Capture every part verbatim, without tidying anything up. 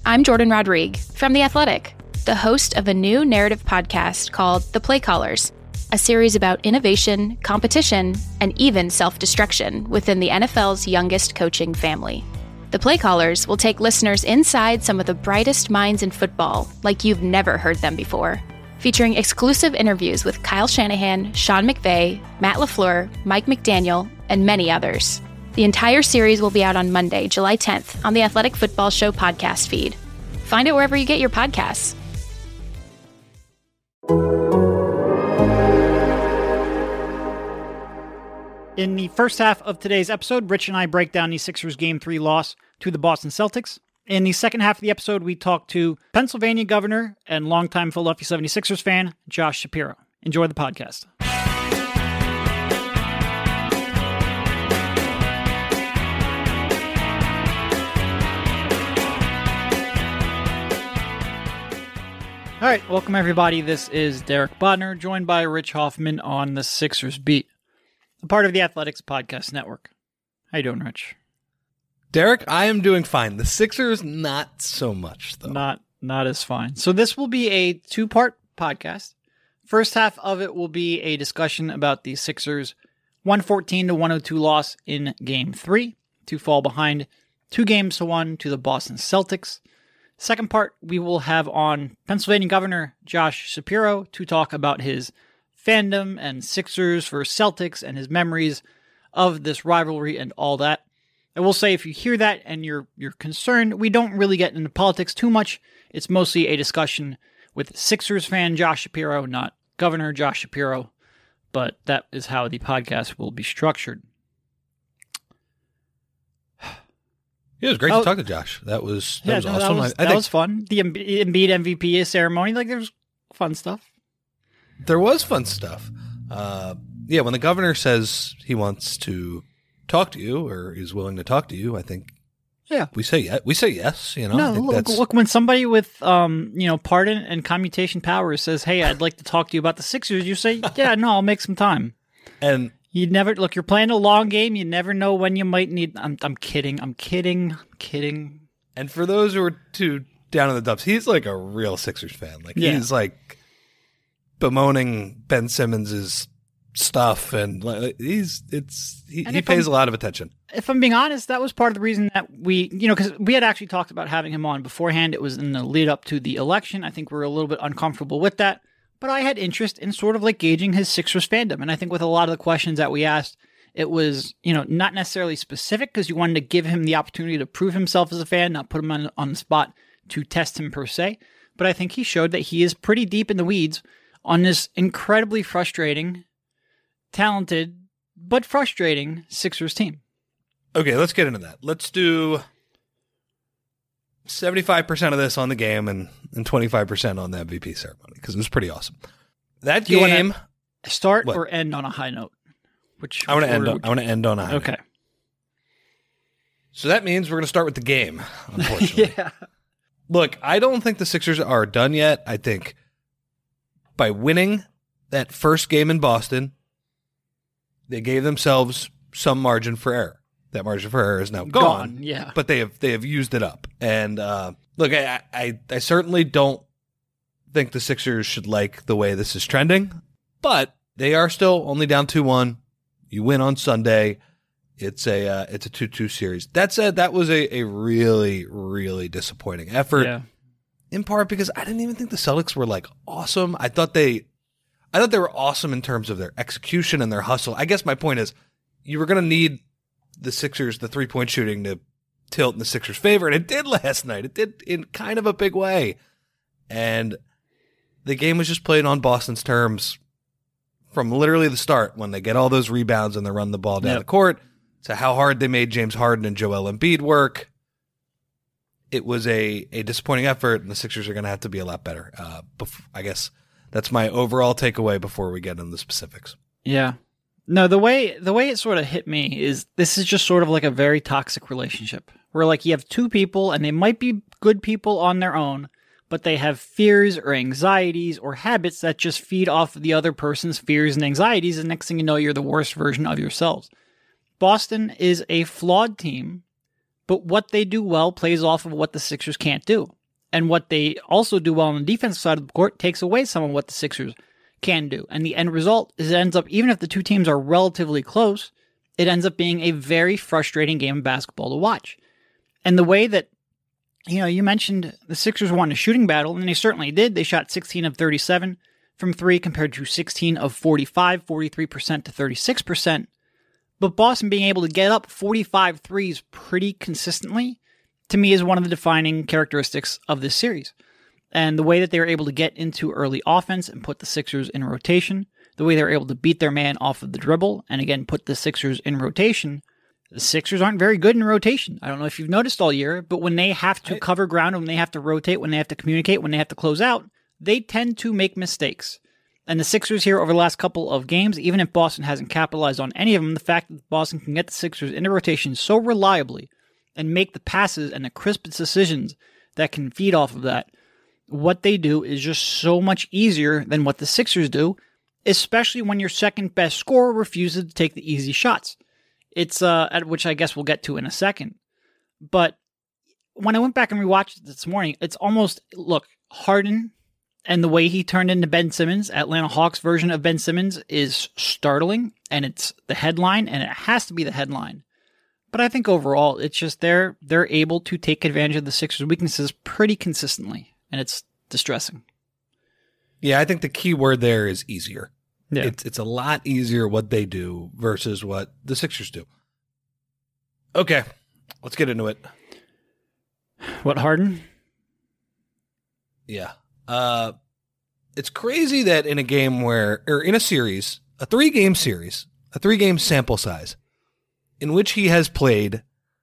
I'm Jordan Rodrigue from The Athletic, the host of a new narrative podcast called The Play Callers, a series about innovation, competition, and even self-destruction within the N F L's youngest coaching family. The Play Callers will take listeners inside some of the brightest minds in football like you've never heard them before, featuring exclusive interviews with Kyle Shanahan, Sean McVay, Matt LaFleur, Mike McDaniel, and many others. The entire series will be out on Monday, July tenth, on the Athletic Football Show podcast feed. Find it wherever you get your podcasts. In the first half of today's episode, Rich and I break down the Sixers Game three loss to the Boston Celtics. In the second half of the episode, we talk to Pennsylvania governor and longtime Philadelphia seventy-sixers fan, Josh Shapiro. Enjoy the podcast. All right, welcome everybody. This is Derek Bodner, joined by Rich Hoffman on the Sixers Beat, a part of the Athletics Podcast Network. How you doing, Rich? Derek, I am doing fine. The Sixers, not so much, though. Not not as fine. So this will be a two-part podcast. First half of it will be a discussion about the Sixers' one fourteen to one oh two loss in Game three to fall behind two games to one to the Boston Celtics. Second part, we will have on Pennsylvania Governor Josh Shapiro to talk about his fandom and Sixers versus Celtics and his memories of this rivalry and all that. I will say, if you hear that and you're you're concerned, we don't really get into politics too much. It's mostly a discussion with Sixers fan Josh Shapiro, not Governor Josh Shapiro, but that is how the podcast will be structured. It was great oh, to talk to Josh. That was that yeah, was no, awesome. That was, I, I that think was fun. The Embiid M V P ceremony, like there was fun stuff. There was fun stuff. Uh, yeah, when the governor says he wants to talk to you or is willing to talk to you, I think yeah, we say yes. We say yes. You know, no, I think look, that's... look, when somebody with um, you know, pardon and commutation powers says, "Hey, I'd like to talk to you about the Sixers," you say, "Yeah, no, I'll make some time." And you never look. You're playing a long game. You never know when you might need. I'm. I'm kidding. I'm kidding. I'm kidding. And for those who are too down in the dumps, he's like a real Sixers fan. Like yeah. he's like bemoaning Ben Simmons's stuff, and like, he's it's he, he pays I'm, a lot of attention. If I'm being honest, that was part of the reason that we, you know, because we had actually talked about having him on beforehand. It was in the lead up to the election. I think we were a little bit uncomfortable with that. But I had interest in sort of like gauging his Sixers fandom. And I think with a lot of the questions that we asked, it was, you know, not necessarily specific because you wanted to give him the opportunity to prove himself as a fan, not put him on, on the spot to test him per se. But I think he showed that he is pretty deep in the weeds on this incredibly frustrating, talented, but frustrating Sixers team. Okay, let's get into that. Let's do seventy-five percent of this on the game and, and twenty-five percent on the M V P ceremony because it was pretty awesome. That Do game. You start what? or end on a high note? Which I want to end. On, would... I want to end on a high okay. note. So that means we're going to start with the game. Unfortunately, yeah. Look, I don't think the Sixers are done yet. I think by winning that first game in Boston, they gave themselves some margin for error. That margin for error is now gone, gone yeah. But they have they have used it up. And uh, look, I, I I certainly don't think the Sixers should like the way this is trending, but they are still only down two one. You win on Sunday. It's a uh, it's a two two series. That said, that was a, a really, really disappointing effort. Yeah. In part because I didn't even think the Celtics were like awesome. I thought they I thought they were awesome in terms of their execution and their hustle. I guess my point is you were gonna need the Sixers, the three-point shooting to tilt in the Sixers' favor, and it did last night. It did in kind of a big way. And the game was just played on Boston's terms from literally the start when they get all those rebounds and they run the ball down yep. the court to how hard they made James Harden and Joel Embiid work. It was a, a disappointing effort, and the Sixers are going to have to be a lot better. Uh, bef- I guess that's my overall takeaway before we get into the specifics. Yeah. No, the way the way it sort of hit me is this is just sort of like a very toxic relationship where like you have two people and they might be good people on their own, but they have fears or anxieties or habits that just feed off of the other person's fears and anxieties. And next thing you know, you're the worst version of yourselves. Boston is a flawed team, but what they do well plays off of what the Sixers can't do. And what they also do well on the defensive side of the court takes away some of what the Sixers can do. And the end result is it ends up, even if the two teams are relatively close, it ends up being a very frustrating game of basketball to watch. And the way that, you know, you mentioned the Sixers won a shooting battle, and they certainly did. They shot sixteen of thirty-seven from three compared to sixteen of forty-five, forty-three percent to thirty-six percent. But Boston being able to get up forty-five threes pretty consistently, to me, is one of the defining characteristics of this series. And the way that they were able to get into early offense and put the Sixers in rotation, the way they were able to beat their man off of the dribble, and again, put the Sixers in rotation. The Sixers aren't very good in rotation. I don't know if you've noticed all year, but when they have to cover ground, when they have to rotate, when they have to communicate, when they have to close out, they tend to make mistakes. And the Sixers here over the last couple of games, even if Boston hasn't capitalized on any of them, the fact that Boston can get the Sixers into rotation so reliably and make the passes and the crisp decisions that can feed off of that, what they do is just so much easier than what the Sixers do, especially when your second best scorer refuses to take the easy shots. It's, uh, at which I guess we'll get to in a second. But when I went back and rewatched it this morning, it's almost, look, Harden and the way he turned into Ben Simmons, Atlanta Hawks version of Ben Simmons, is startling, and it's the headline, and it has to be the headline. But I think overall, it's just they're they're able to take advantage of the Sixers' weaknesses pretty consistently, and it's distressing. Yeah, I think the key word there is easier. Yeah. It's it's a lot easier what they do versus what the Sixers do. Okay, let's get into it. What, Harden? Yeah. Uh, it's crazy that in a game where, or in a series, a three-game series, a three-game sample size, in which he has played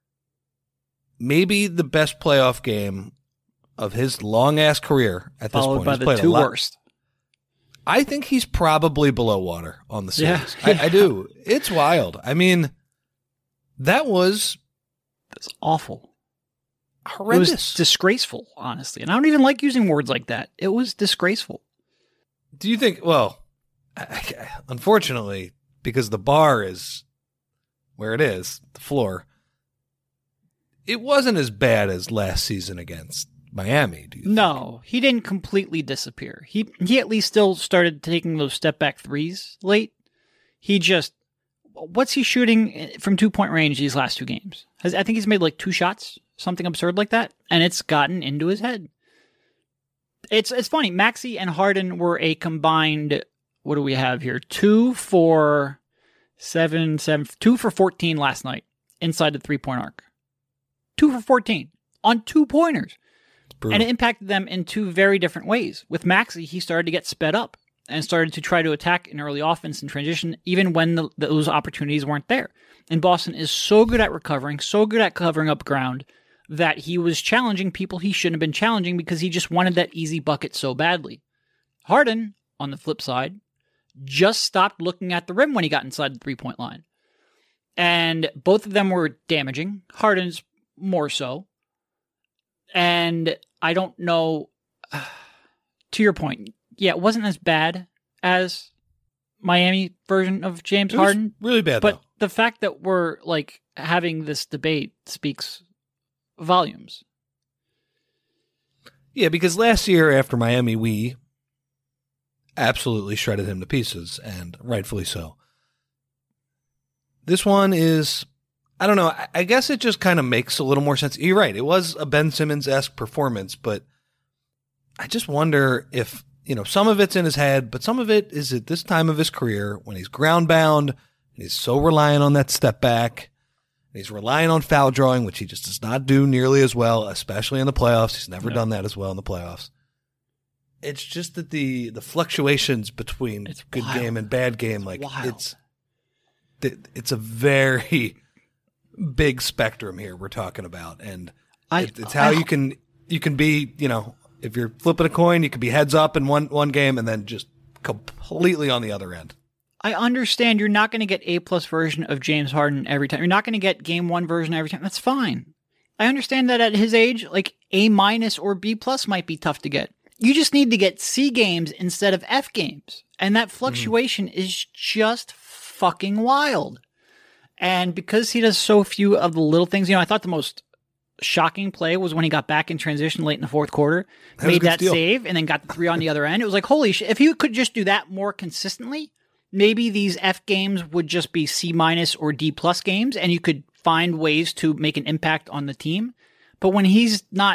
maybe the best playoff game of his long-ass career at this Followed point. by He's the played two a lot. worst. I think he's probably below water on the series. Yeah. I, I do. It's wild. I mean, that was That's awful. horrendous. It was disgraceful, honestly. And I don't even like using words like that. It was disgraceful. Do you think, well, I, I, unfortunately, because the bar is where it is, the floor, it wasn't as bad as last season against Miami, do you No, he didn't completely disappear. He he at least still started taking those step back threes late. He just, what's he shooting from two point range these last two games? Has, I think he's made like two shots, something absurd like that, and it's gotten into his head. It's it's funny. Maxey and Harden were a combined, what do we have here? Two for seven, seven, two for fourteen last night inside the three point arc. Two for fourteen on two pointers. And it impacted them in two very different ways. With Maxey, he started to get sped up and started to try to attack in early offense and transition, even when the, those opportunities weren't there. And Boston is so good at recovering, so good at covering up ground, that he was challenging people he shouldn't have been challenging because he just wanted that easy bucket so badly. Harden, on the flip side, just stopped looking at the rim when he got inside the three-point line. And both of them were damaging. Harden's more so. And I don't know, uh, to your point, yeah, it wasn't as bad as Miami version of James It was Harden. really bad, But though. the fact that we're like having this debate speaks volumes. Yeah, because last year after Miami, we absolutely shredded him to pieces, and rightfully so. This one is, I don't know, I, I guess it just kind of makes a little more sense. You're right, it was a Ben Simmons-esque performance, but I just wonder if, you know, some of it's in his head, but some of it is at this time of his career when he's ground bound, and he's so reliant on that step back, and he's relying on foul drawing, which he just does not do nearly as well, especially in the playoffs. He's never No. done that as well in the playoffs. It's just that the the fluctuations between It's good wild. game and bad game, It's like wild. it's it's a very big spectrum here we're talking about, and I, it, it's how I- you can you can be, you know, if you're flipping a coin, you can be heads up in one one game and then just completely on the other end. I understand you're not going to get A plus version of James Harden every time. You're not going to get game one version every time. That's fine. I understand that at his age, like A minus or B plus might be tough to get. You just need to get C games instead of F games. And that fluctuation mm. is just fucking wild. And because he does so few of the little things, you know, I thought the most shocking play was when he got back in transition late in the fourth quarter, That was a made good that steal. save, and then got the three on the other end. It was like, holy shit. If he could just do that more consistently, maybe these F games would just be C minus or D plus games, and you could find ways to make an impact on the team. But when he's not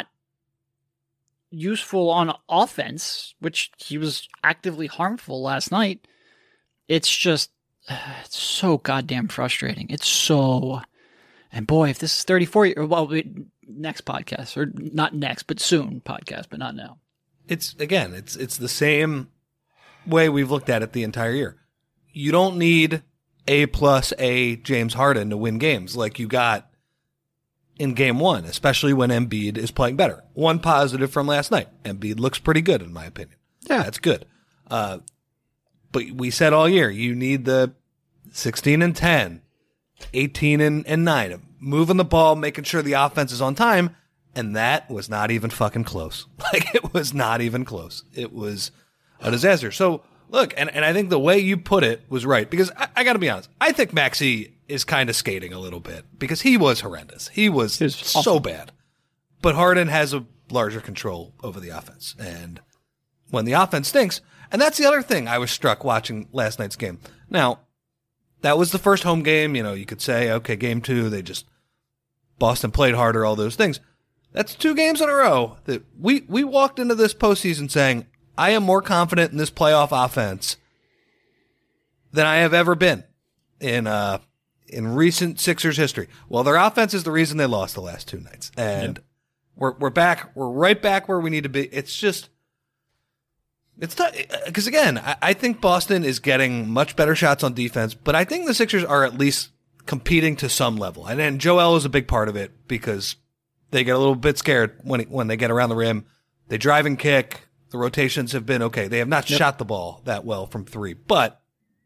useful on offense, which he was actively harmful last night, it's just, it's so goddamn frustrating. It's so, and boy, if this is thirty-four, well, we- next podcast, or not next, but soon podcast, but not now. It's again, it's it's the same way we've looked at it the entire year. You don't need A plus A James Harden to win games like you got in game one, especially when Embiid is playing better. One positive from last night. Embiid looks pretty good, in my opinion. Yeah. That's good. Uh, but we said all year, you need the sixteen and ten, eighteen and, and nine, moving the ball, making sure the offense is on time. And that was not even fucking close. Like, it was not even close. It was a disaster. So, look, and, and I think the way you put it was right, because I, I got to be honest. I think Maxey is kind of skating a little bit because he was horrendous. He was, He was so awful. bad. But Harden has a larger control over the offense. And when the offense stinks, and that's the other thing I was struck watching last night's game. Now, that was the first home game. You know, you could say, okay, game two, they just, Boston played harder, all those things. That's two games in a row that we, we walked into this postseason saying, I am more confident in this playoff offense than I have ever been in uh in recent Sixers history. Well, their offense is the reason they lost the last two nights. And Yep. we're we're back. We're right back where we need to be. It's just it's not because again, I, I think Boston is getting much better shots on defense, but I think the Sixers are at least competing to some level. And then Joel is a big part of it because they get a little bit scared when when they get around the rim. They drive and kick. The rotations have been okay. They have not Yep. shot the ball that well from three, but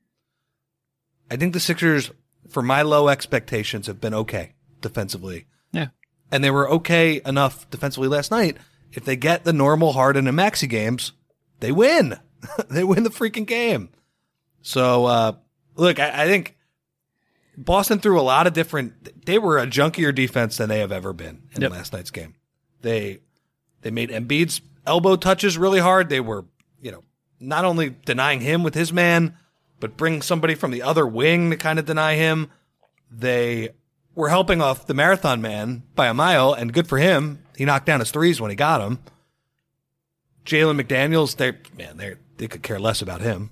I think the Sixers, for my low expectations, have been okay defensively. Yeah. And they were okay enough defensively last night. If they get the normal Harden and Maxey games, they win. They win the freaking game. So, uh, look, I, I think Boston threw a lot of different, they were a junkier defense than they have ever been in Yep. last night's game. They, they made Embiid's elbow touches really hard. They were, you know, not only denying him with his man, but bring somebody from the other wing to kind of deny him. They were helping off the marathon man by a mile, and good for him. He knocked down his threes when he got them. Jalen McDaniels, they man, they they could care less about him.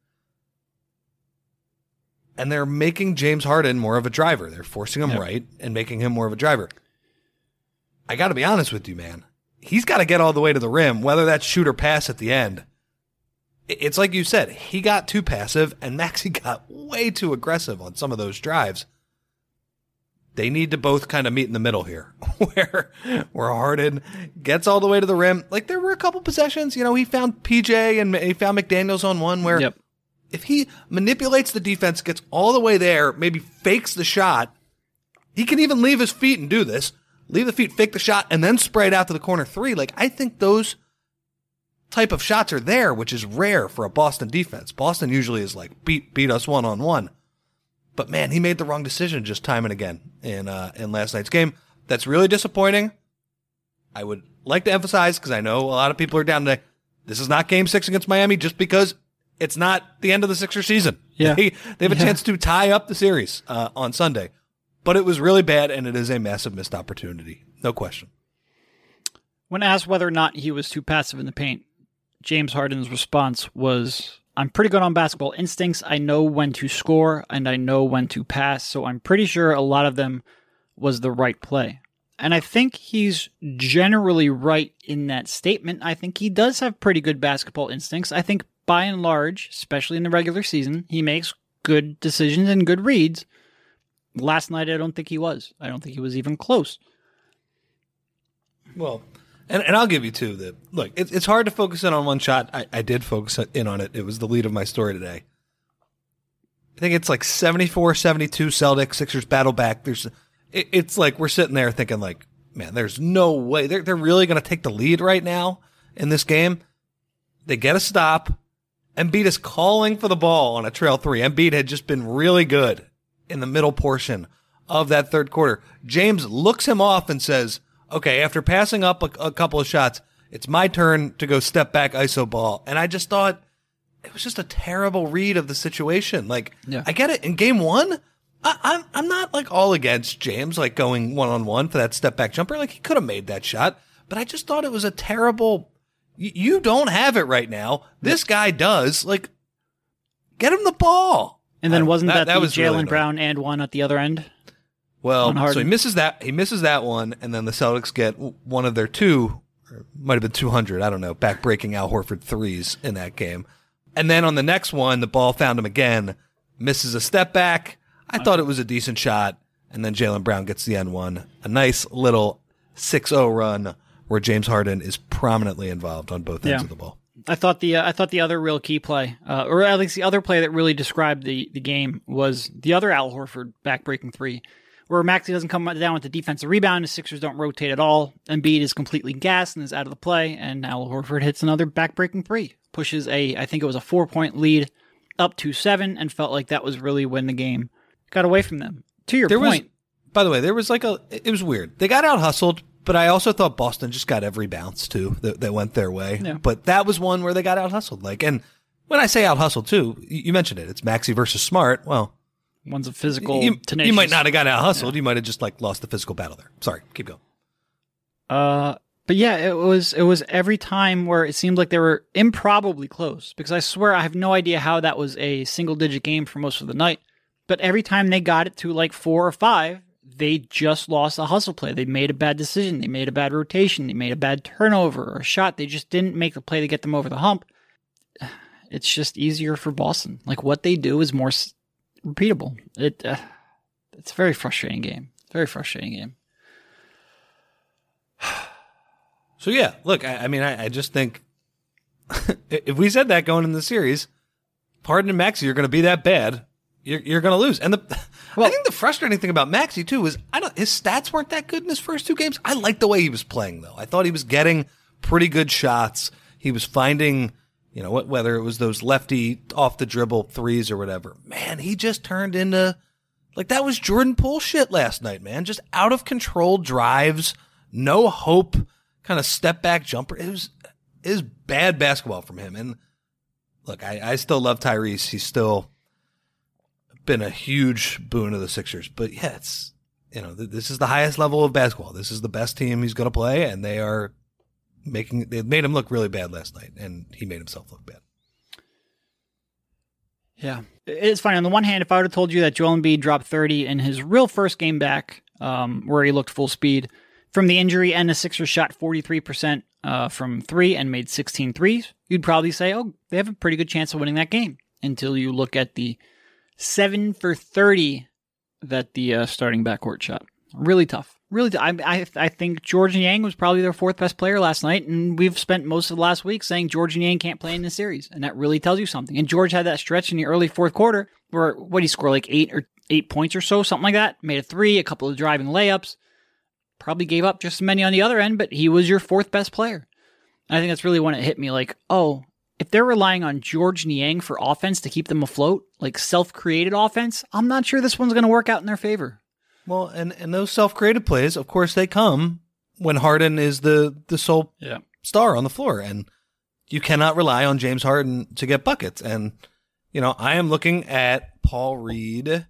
And they're making James Harden more of a driver. They're forcing him Yep. right and making him more of a driver. I got to be honest with you, man. He's got to get all the way to the rim, whether that's shoot or pass at the end. It's like you said, he got too passive, and Maxey got way too aggressive on some of those drives. They need to both kind of meet in the middle here, where where Harden gets all the way to the rim. Like, there were a couple possessions, you know, he found P J and he found McDaniels on one where Yep. if he manipulates the defense, gets all the way there, maybe fakes the shot, he can even leave his feet and do this. Leave the feet, fake the shot, and then spray it out to the corner three. Like, I think those type of shots are there, which is rare for a Boston defense. Boston usually is like, beat beat us one-on-one. But, man, he made the wrong decision just time and again in uh, in last night's game. That's really disappointing. I would like to emphasize, because I know a lot of people are down today, this is not game six against Miami just because it's not the end of the Sixers season. Yeah. They, they have a Yeah. chance to tie up the series uh, on Sunday. But it was really bad, and it is a massive missed opportunity. No question. When asked whether or not he was too passive in the paint, James Harden's response was, I'm pretty good on basketball instincts. I know when to score, and I know when to pass, so I'm pretty sure a lot of them was the right play. And I think he's generally right in that statement. I think he does have pretty good basketball instincts. I think by and large, especially in the regular season, he makes good decisions and good reads. Last night, I don't think he was. I don't think he was even close. Well, and, and I'll give you two. That look, it, it's hard to focus in on one shot. I, I did focus in on it. It was the lead of my story today. I think it's like seventy-four seventy-two Celtics, Sixers battle back. There's, it, it's like we're sitting there thinking like, man, there's no way. They're, they're really going to take the lead right now in this game. They get a stop. Embiid is calling for the ball on a trail three. Embiid had just been really good in the middle portion of that third quarter. James looks him off and says, okay, after passing up a, a couple of shots, it's my turn to go step back iso ball. And I just thought it was just a terrible read of the situation. Like, yeah. I get it. In game one, I, I'm I'm not like all against James like going one on one for that step back jumper. Like he could have made that shot, but I just thought it was a terrible. Y- you don't have it right now. This guy does. Like, get him the ball. And then wasn't that, that, that the Jaylen really Brown and one at the other end? Well, so he misses that. He misses that one, and then the Celtics get one of their two, or might have been two hundred. I don't know, back breaking Al Horford threes in that game. And then on the next one, the ball found him again, misses a step back. I thought it was a decent shot, and then Jaylen Brown gets the N one. A nice little six oh run where James Harden is prominently involved on both ends yeah. of the ball. I thought the uh, I thought the other real key play, uh, or at least the other play that really described the, the game, was the other Al Horford backbreaking three, where Maxey doesn't come down with the defensive rebound, the Sixers don't rotate at all, Embiid is completely gassed and is out of the play, and Al Horford hits another backbreaking three, pushes a I think it was a four point lead up to seven, and felt like that was really when the game got away from them. To your there point, was, by the way, there was like a it was weird. They got out hustled. But I also thought Boston just got every bounce, too, that, that went their way. Yeah. But that was one where they got out-hustled. Like, and when I say out-hustled, too, you mentioned it. It's Maxey versus Smart. Well, one's a physical, you, tenacious. You might not have got out-hustled. Yeah. You might have just, like, lost the physical battle there. Sorry. Keep going. Uh, but yeah, it was it was every time where it seemed like they were improbably close. Because I swear I have no idea how that was a single-digit game for most of the night. But every time they got it to, like, four or five, they just lost a hustle play. They made a bad decision. They made a bad rotation. They made a bad turnover or a shot. They just didn't make the play to get them over the hump. It's just easier for Boston. Like, what they do is more s- repeatable. It uh, It's a very frustrating game. Very frustrating game. So, yeah, look, I, I mean, I, I just think if we said that going in the series, Harden and Maxey are going to be that bad, you're, you're going to lose. And the well, I think the frustrating thing about Maxey, too, is I don't his stats weren't that good in his first two games. I liked the way he was playing, though. I thought he was getting pretty good shots. He was finding, you know, whether it was those lefty off the dribble threes or whatever. Man, he just turned into, like, that was Jordan Poole shit last night, man. Just out of control drives, no hope, kind of step back jumper. It was, it was bad basketball from him. And look, I, I still love Tyrese. He's still been a huge boon to the Sixers. But yeah, it's, you know, th- this is the highest level of basketball. This is the best team he's going to play, and they are making, they made him look really bad last night, and he made himself look bad. Yeah. It's funny. On the one hand, if I would have told you that Joel Embiid dropped thirty in his real first game back, um, where he looked full speed from the injury, and the Sixers shot forty-three percent uh, from three and made sixteen threes, you'd probably say, oh, they have a pretty good chance of winning that game, until you look at the seven for thirty that the uh, starting backcourt shot. Really tough. Really tough. I, I, I think George Niang was probably their fourth best player last night, and we've spent most of the last week saying George Niang can't play in the series, and that really tells you something. And George had that stretch in the early fourth quarter where, what, he scored like eight or eight points or so, something like that. Made a three, a couple of driving layups. Probably gave up just as many on the other end, but he was your fourth best player. And I think that's really when it hit me, like, oh, if they're relying on George Niang for offense to keep them afloat, like self-created offense, I'm not sure this one's going to work out in their favor. Well, and, and those self-created plays, of course, they come when Harden is the, the sole yeah. star on the floor. And you cannot rely on James Harden to get buckets. And, you know, I am looking at Paul Reed.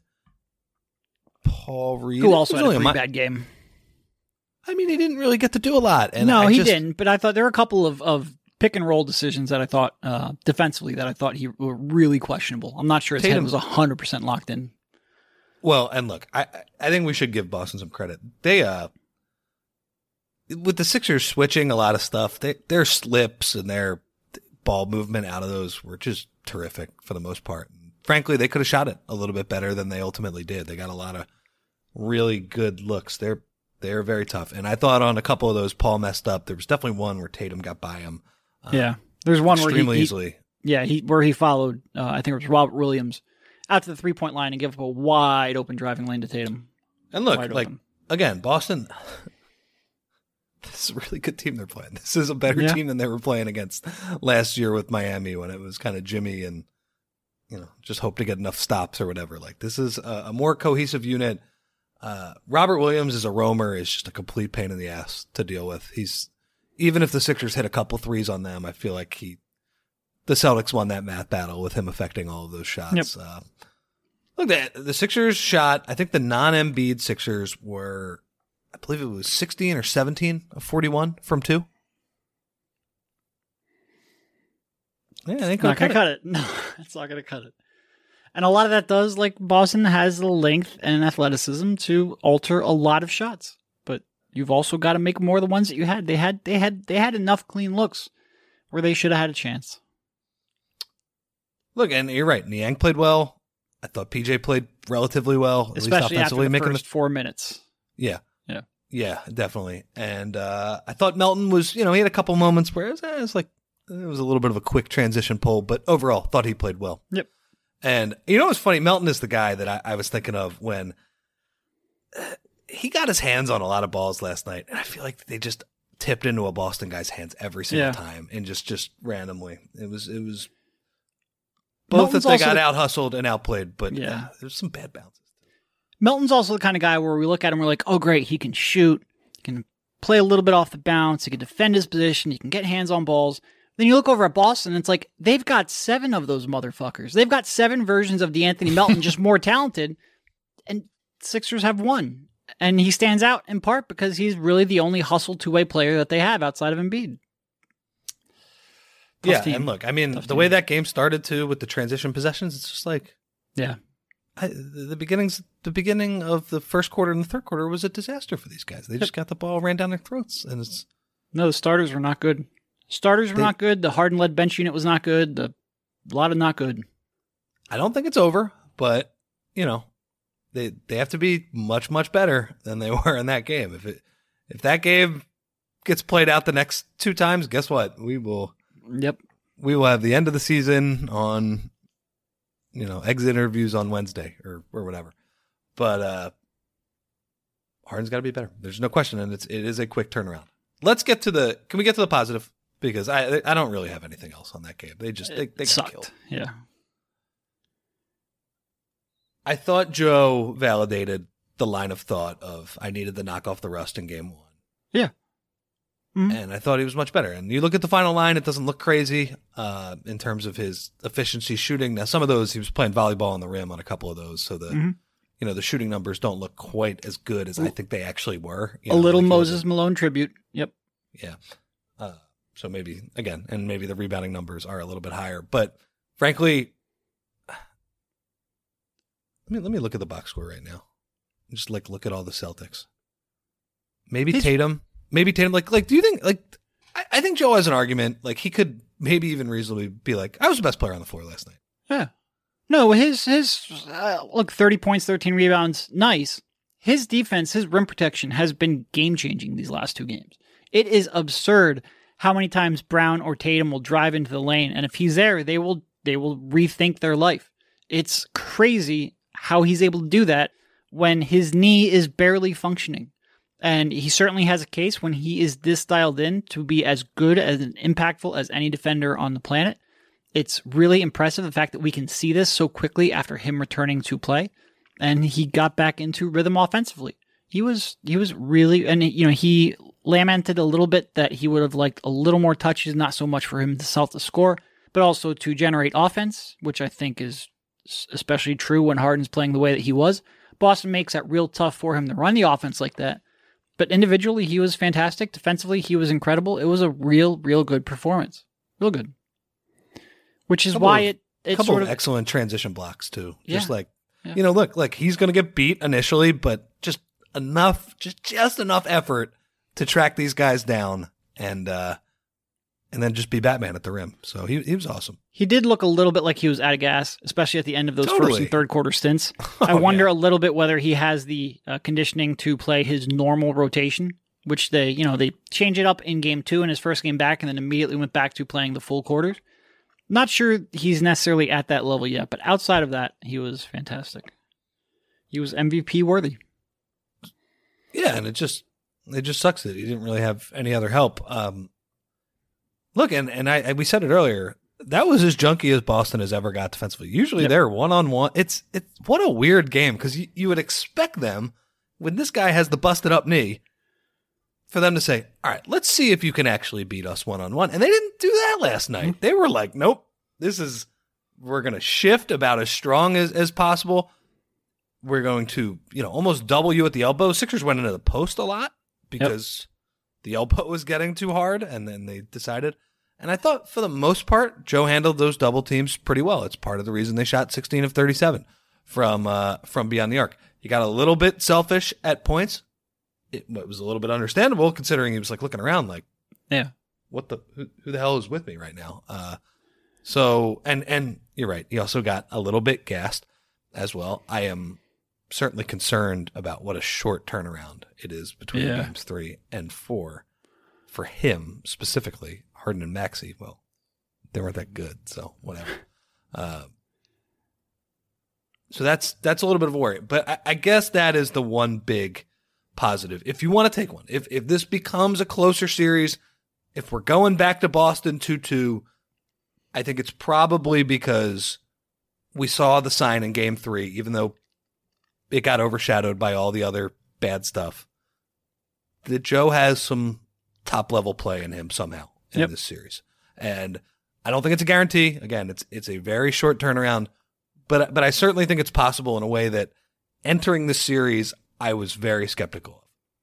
Paul Reed. Who also had a really pretty a mi- bad game. I mean, he didn't really get to do a lot. And no, I he just, didn't. But I thought there were a couple of, of pick and roll decisions that I thought uh, defensively that I thought he were really questionable. I'm not sure his Tatum head was one hundred percent locked in. Well, and look, I I think we should give Boston some credit. They uh, with the Sixers switching a lot of stuff, they, their slips and their ball movement out of those were just terrific for the most part. Frankly, they could have shot it a little bit better than they ultimately did. They got a lot of really good looks. They're they're very tough. And I thought on a couple of those, Paul messed up. There was definitely one where Tatum got by him. Uh, yeah, there's one where extremely he, he easily. Yeah, he where he followed. Uh, I think it was Robert Williams out to the three point line and gave up a wide open driving lane to Tatum. And look, Wide like open. again, Boston. This is a really good team they're playing. This is a better Yeah. team than they were playing against last year with Miami when it was kind of Jimmy and, you know, just hope to get enough stops or whatever. Like, this is a, a more cohesive unit. Uh, Robert Williams as a roamer is just a complete pain in the ass to deal with. He's even if the Sixers hit a couple threes on them, I feel like he the Celtics won that math battle with him affecting all of those shots. Yep. Uh, look, the, the Sixers shot, I think the non-Embiid Sixers were, I believe it was sixteen or seventeen of forty-one from two. Yeah, I think not going to cut it. No, it's not going to cut it. And a lot of that does, like, Boston has the length and athleticism to alter a lot of shots. But you've also got to make more of the ones that you had. They had they had, they had enough clean looks where they should have had a chance. Look, and you're right. Niang played well. I thought P J played relatively well, at especially least offensively, after the making first the four minutes. Yeah, yeah, yeah, definitely. And uh, I thought Melton was, you know, he had a couple moments where it was, eh, it was like it was a little bit of a quick transition pull, but overall, thought he played well. Yep. And you know what's funny? Melton is the guy that I, I was thinking of when uh, he got his hands on a lot of balls last night, and I feel like they just tipped into a Boston guy's hands every single yeah. time, and just just randomly. It was it was both Melton's that they got the, out hustled and outplayed, but yeah, uh, there's some bad bounces. Melton's also the kind of guy where we look at him, we're like, oh great, he can shoot, he can play a little bit off the bounce, he can defend his position, he can get hands on balls. Then you look over at Boston, and it's like, they've got seven of those motherfuckers. They've got seven versions of DeAnthony Melton, just more talented, and Sixers have one. And he stands out in part because he's really the only hustle two-way player that they have outside of Embiid. Tough yeah, team. and look, I mean, Tough the team. way that game started, too, with the transition possessions, it's just like... Yeah. I, the beginnings, the beginning of the first quarter and the third quarter was a disaster for these guys. They just got the ball ran down their throats, and it's... No, the starters were not good. Starters were They, not good. The Harden-led bench unit was not good. The, a lot of not good. I don't think it's over, but, you know, they they have to be much, much better than they were in that game. If it if that game gets played out the next two times, guess what? We will Yep. We will have the end of the season on, you know, exit interviews on Wednesday or, or whatever. But uh, Harden's got to be better. There's no question, and it's it is a quick turnaround. Let's get to the – can we get to the positive? Because I I don't really have anything else on that game. They just they, they got sucked. killed. Yeah. I thought Joe validated the line of thought of I needed to knock off the rust in game one. Yeah. Mm-hmm. And I thought he was much better. And you look at the final line, it doesn't look crazy uh, in terms of his efficiency shooting. Now, some of those, he was playing volleyball on the rim on a couple of those. So the mm-hmm. you know the shooting numbers don't look quite as good as I think they actually were. You a know, little like Moses Malone tribute. Yep. Yeah. Uh, so maybe, again, and maybe the rebounding numbers are a little bit higher. But frankly, let me, let me look at the box score right now. Just like look at all the Celtics. Maybe He's, Tatum. Maybe Tatum. Like, like, do you think, like, I, I think Joe has an argument. Like, he could maybe even reasonably be like, I was the best player on the floor last night. Yeah. No, his, his, uh, look, thirty points, thirteen rebounds, nice. His defense, his rim protection has been game changing these last two games. It is absurd how many times Brown or Tatum will drive into the lane, and if he's there, they will they will rethink their life. It's crazy how he's able to do that when his knee is barely functioning. And he certainly has a case when he is this dialed in to be as good as and impactful as any defender on the planet. It's really impressive the fact that we can see this so quickly after him returning to play, and he got back into rhythm offensively. He was he was really, and you know, he lamented a little bit that he would have liked a little more touches, not so much for him himself to score, but also to generate offense, which I think is especially true when Harden's playing the way that he was. Boston makes that real tough for him to run the offense like that. But individually, he was fantastic. Defensively, he was incredible. It was a real, real good performance. Real good. Which is couple why of, it, it couple sort of of excellent transition blocks too. Yeah. Just like yeah. you know, look, like he's going to get beat initially, but just enough, just just enough effort to track these guys down and uh, and then just be Batman at the rim. So he he was awesome. He did look a little bit like he was out of gas, especially at the end of those totally. first and third quarter stints. Oh, I wonder yeah. a little bit whether he has the uh, conditioning to play his normal rotation, which they, you know, they changed it up in game two in his first game back and then immediately went back to playing the full quarters. Not sure he's necessarily at that level yet, but outside of that, he was fantastic. He was M V P worthy. Yeah, and it just it just sucks that he didn't really have any other help. Um, look, and and I, I we said it earlier. That was as junky as Boston has ever got defensively. Usually yep. they're one on one. It's it's what a weird game because you, you would expect them when this guy has the busted up knee, for them to say, all right, let's see if you can actually beat us one-on-one. And they didn't do that last night. They were like, nope, this is, we're going to shift about as strong as, as possible. We're going to, you know, almost double you at the elbow. Sixers went into the post a lot because yep. the elbow was getting too hard, and then they decided. And I thought for the most part, Joe handled those double teams pretty well. It's part of the reason they shot sixteen of thirty-seven from uh, from beyond the arc. He got a little bit selfish at points. It, it was a little bit understandable considering he was like looking around like, yeah, what the, who, who the hell is with me right now? Uh, so, and, and you're right. He also got a little bit gassed as well. I am certainly concerned about what a short turnaround it is between yeah. games three and four for him specifically. Harden and Maxey, well, they weren't that good, so whatever. Uh, so that's that's a little bit of a worry. But I, I guess that is the one big positive. If you want to take one, if if this becomes a closer series, if we're going back to Boston two two, I think it's probably because we saw the sign in game three, even though it got overshadowed by all the other bad stuff, that Joe has some top-level play in him somehow in yep. this series. And I don't think it's a guarantee. Again, it's it's a very short turnaround, but but I certainly think it's possible in a way that entering the series, I was very skeptical of.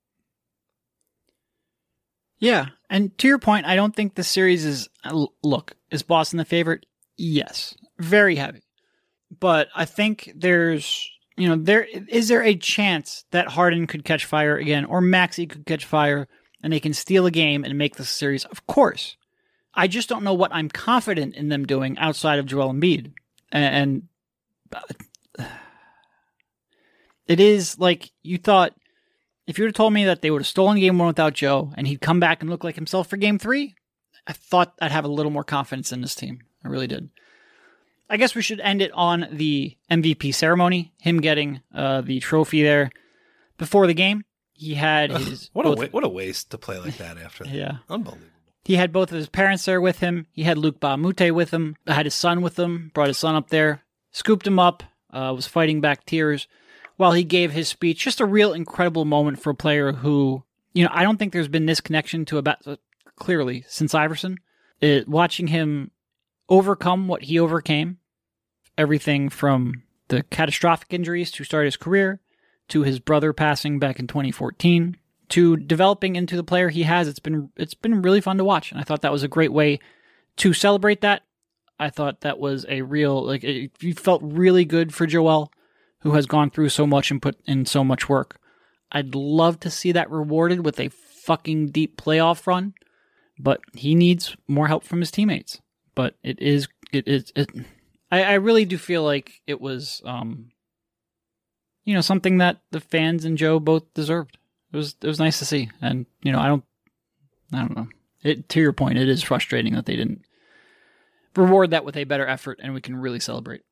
Yeah, and to your point, I don't think the series is, look, is Boston the favorite? Yes, very heavy. But I think there's, you know, there is there a chance that Harden could catch fire again, or Maxey could catch fire, and they can steal a game and make the series? Of course. I just don't know what I'm confident in them doing outside of Joel Embiid. And, and it is like you thought, if you would have told me that they would have stolen game one without Joe and he'd come back and look like himself for game three, I thought I'd have a little more confidence in this team. I really did. I guess we should end it on the M V P ceremony, him getting uh, the trophy there before the game. He had his... what, a wa- what a waste to play like that after that. Yeah. Unbelievable. He had both of his parents there with him. He had Luke Bahamute with him. Had his son with him. Brought his son up there. Scooped him up. Uh, was fighting back tears while he gave his speech. Just a real incredible moment for a player who, you know, I don't think there's been this connection to about uh, clearly since Iverson. It, watching him overcome what he overcame, everything from the catastrophic injuries to start his career, to his brother passing back in twenty fourteen, to developing into the player he has, it's been it's been really fun to watch. And I thought that was a great way to celebrate that. I thought that was a real, like, it, you felt really good for Joel, who has gone through so much and put in so much work. I'd love to see that rewarded with a fucking deep playoff run, but he needs more help from his teammates. But it is, it is, it, I, I really do feel like it was, um, you know, something that the fans and Joe both deserved. It was, it was nice to see. And, you know, I don't, I don't know. It, to your point, it is frustrating that they didn't reward that with a better effort and we can really celebrate.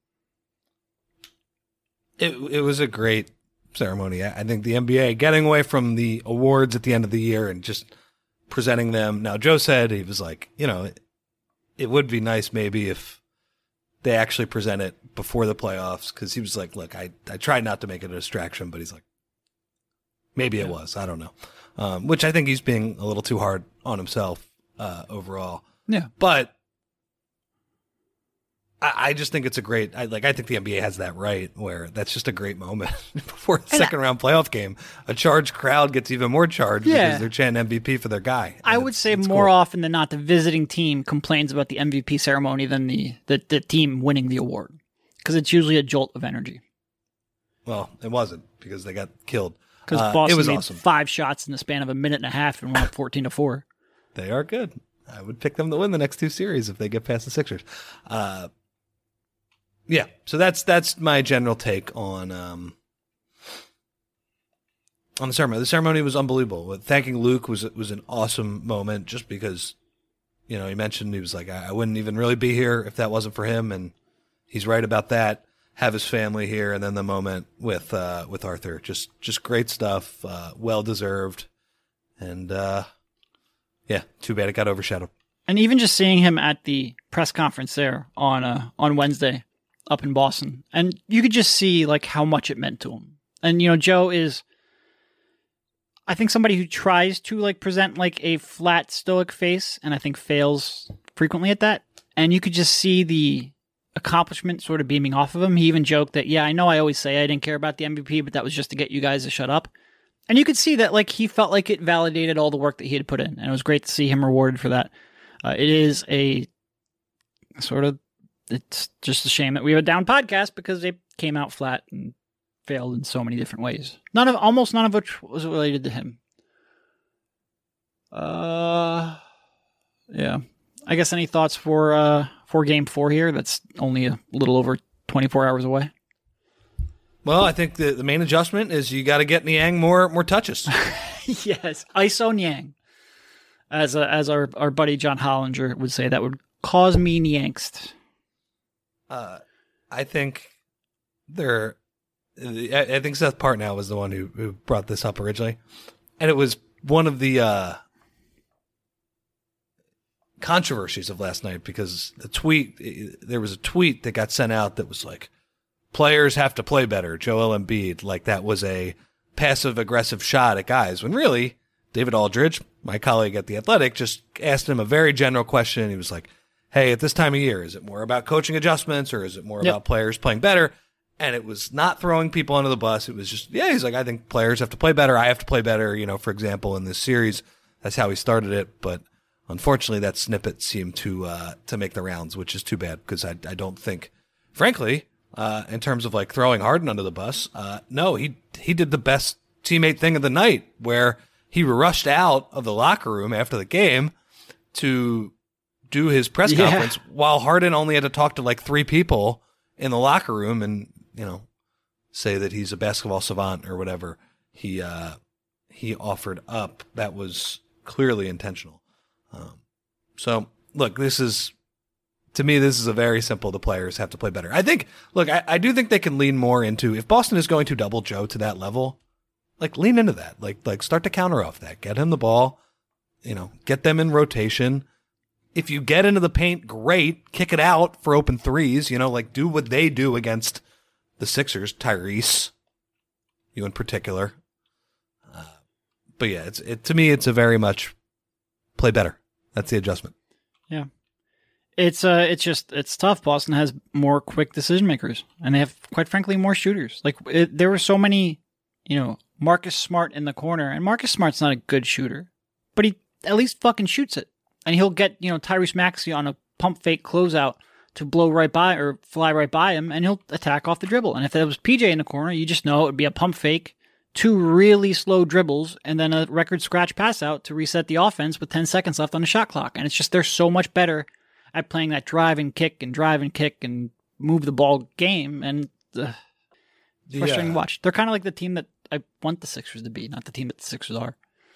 It it was a great ceremony. I think the N B A getting away from the awards at the end of the year and just presenting them. Now, Joe said, he was like, you know, it, it would be nice maybe if they actually present it before the playoffs, because he was like, look, I, I tried not to make it a distraction, but he's like, maybe yeah. it was. I don't know. Um, which I think he's being a little too hard on himself uh, overall. Yeah. But I, I just think it's a great, I, like, I think the N B A has that right, where that's just a great moment before the second I, round playoff game. A charged crowd gets even more charged yeah. because they're chanting M V P for their guy. I would say more cool. often than not, the visiting team complains about the M V P ceremony than the, the, the team winning the award, because it's usually a jolt of energy. Well, it wasn't, because they got killed. Because uh, Boston it was made awesome. five shots in the span of a minute and a half and went up fourteen to four. They are good. I would pick them to win the next two series if they get past the Sixers. Uh, yeah, so that's that's my general take on um, on the ceremony. The ceremony was unbelievable. Thanking Luke was was an awesome moment, just because, you know, he mentioned, he was like, I, I wouldn't even really be here if that wasn't for him, and he's right about that. Have his family here, and then the moment with uh, with Arthur, just just great stuff, uh, well deserved, and uh, yeah, too bad it got overshadowed. And even just seeing him at the press conference there on uh, on Wednesday up in Boston, and you could just see like how much it meant to him. And you know, Joe is I think somebody who tries to like present like a flat stoic face, and I think fails frequently at that. And you could just see the accomplishment sort of beaming off of him. He even joked that, yeah, I know I always say I didn't care about the M V P, but that was just to get you guys to shut up. And you could see that like he felt like it validated all the work that he had put in, and it was great to see him rewarded for that. Uh, it is a sort of, it's just a shame that we have a down podcast because they came out flat and failed in so many different ways. None of, almost none of which was related to him. Uh, yeah. I guess any thoughts for uh for game four here? That's only a little over twenty-four hours away. Well, I think the, the main adjustment is you got to get Niang more more touches. Yes, I S O Niang, as a, as our our buddy John Hollinger would say, that would cause me the angst. Uh, I think there. I, I think Seth Partnow was the one who, who brought this up originally, and it was one of the uh, controversies of last night because the tweet there was a tweet that got sent out that was like, players have to play better, Joel Embiid, like that was a passive aggressive shot at guys, when really David Aldridge, my colleague at The Athletic, just asked him a very general question. He was like, hey, at this time of year, is it more about coaching adjustments or is it more yep. about players playing better? And it was not throwing people under the bus. It was just, yeah, he's like, I think players have to play better. I have to play better. You know, for example, in this series, that's how he started it. But unfortunately, that snippet seemed to uh, to make the rounds, which is too bad because I, I don't think, frankly, uh, in terms of like throwing Harden under the bus, uh, no, he he did the best teammate thing of the night where he rushed out of the locker room after the game to do his press yeah. conference while Harden only had to talk to like three people in the locker room and, you know, say that he's a basketball savant or whatever he uh, he offered up. That was clearly intentional. Um, so, look, this is, to me, this is a very simple, the players have to play better. I think, look, I, I do think they can lean more into, if Boston is going to double Joe to that level, like, lean into that. Like, like start to counter off that. Get him the ball, you know, get them in rotation. If you get into the paint, great. Kick it out for open threes. You know, like do what they do against the Sixers. Tyrese, you in particular. Uh, but yeah, it's it to me. It's a very much play better. That's the adjustment. Yeah, it's uh, it's just it's tough. Boston has more quick decision makers, and they have, quite frankly, more shooters. Like it, there were so many, you know, Marcus Smart in the corner, and Marcus Smart's not a good shooter, but he at least fucking shoots it. And he'll get, you know, Tyrese Maxey on a pump fake closeout to blow right by or fly right by him, and he'll attack off the dribble. And if there was P J in the corner, you just know it would be a pump fake, two really slow dribbles, and then a record scratch pass out to reset the offense with ten seconds left on the shot clock. And it's just they're so much better at playing that drive and kick and drive and kick and move the ball game. And uh, it's frustrating yeah. to watch. They're kind of like the team that I want the Sixers to be, not the team that the Sixers are.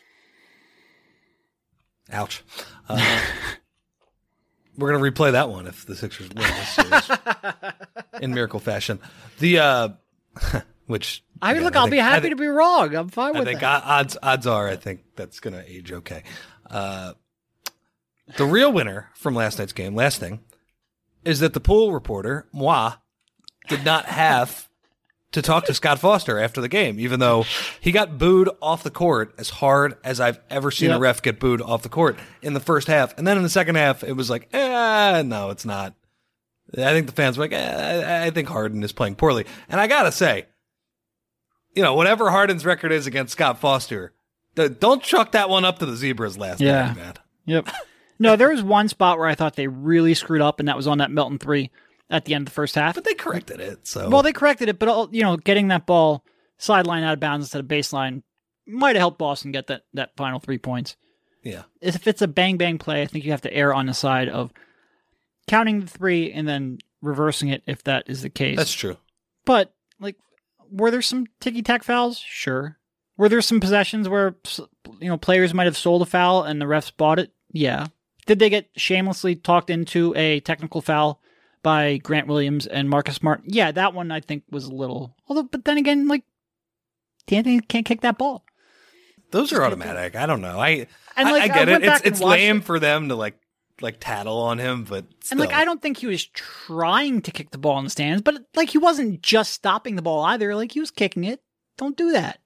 Ouch. Uh, we're going to replay that one if the Sixers win this series in miracle fashion. The, uh, which. I mean, again, look, I I'll think, be happy think, to be wrong. I'm fine I with think that. odds, odds are, I think that's going to age okay. Uh, the real winner from last night's game, last thing, is that the pool reporter, moi, did not have to talk to Scott Foster after the game, even though he got booed off the court as hard as I've ever seen yep. a ref get booed off the court in the first half. And then in the second half, it was like, eh, no, it's not. I think the fans were like, eh, I think Harden is playing poorly. And I got to say, you know, whatever Harden's record is against Scott Foster, don't chuck that one up to the Zebras last yeah. night, man. Yep. No, there was one spot where I thought they really screwed up, and that was on that Melton three at the end of the first half. But they corrected it. So Well, they corrected it, but, you know, getting that ball sideline out of bounds instead of baseline might have helped Boston get that, that final three points. Yeah. If it's a bang-bang play, I think you have to err on the side of counting the three and then reversing it if that is the case. That's true. But, like, were there some ticky-tack fouls? Sure. Were there some possessions where, you know, players might have sold a foul and the refs bought it? Yeah. Did they get shamelessly talked into a technical foul by Grant Williams and Marcus Smart? Yeah, that one I think was a little. Although, but then again, like, D'Antoni can't kick that ball. Those are automatic. I don't know. I and like, I, I get I it. It's and it's lame it. for them to like like tattle on him, but still. And like I don't think he was trying to kick the ball in the stands, but like he wasn't just stopping the ball either. Like he was kicking it. Don't do that.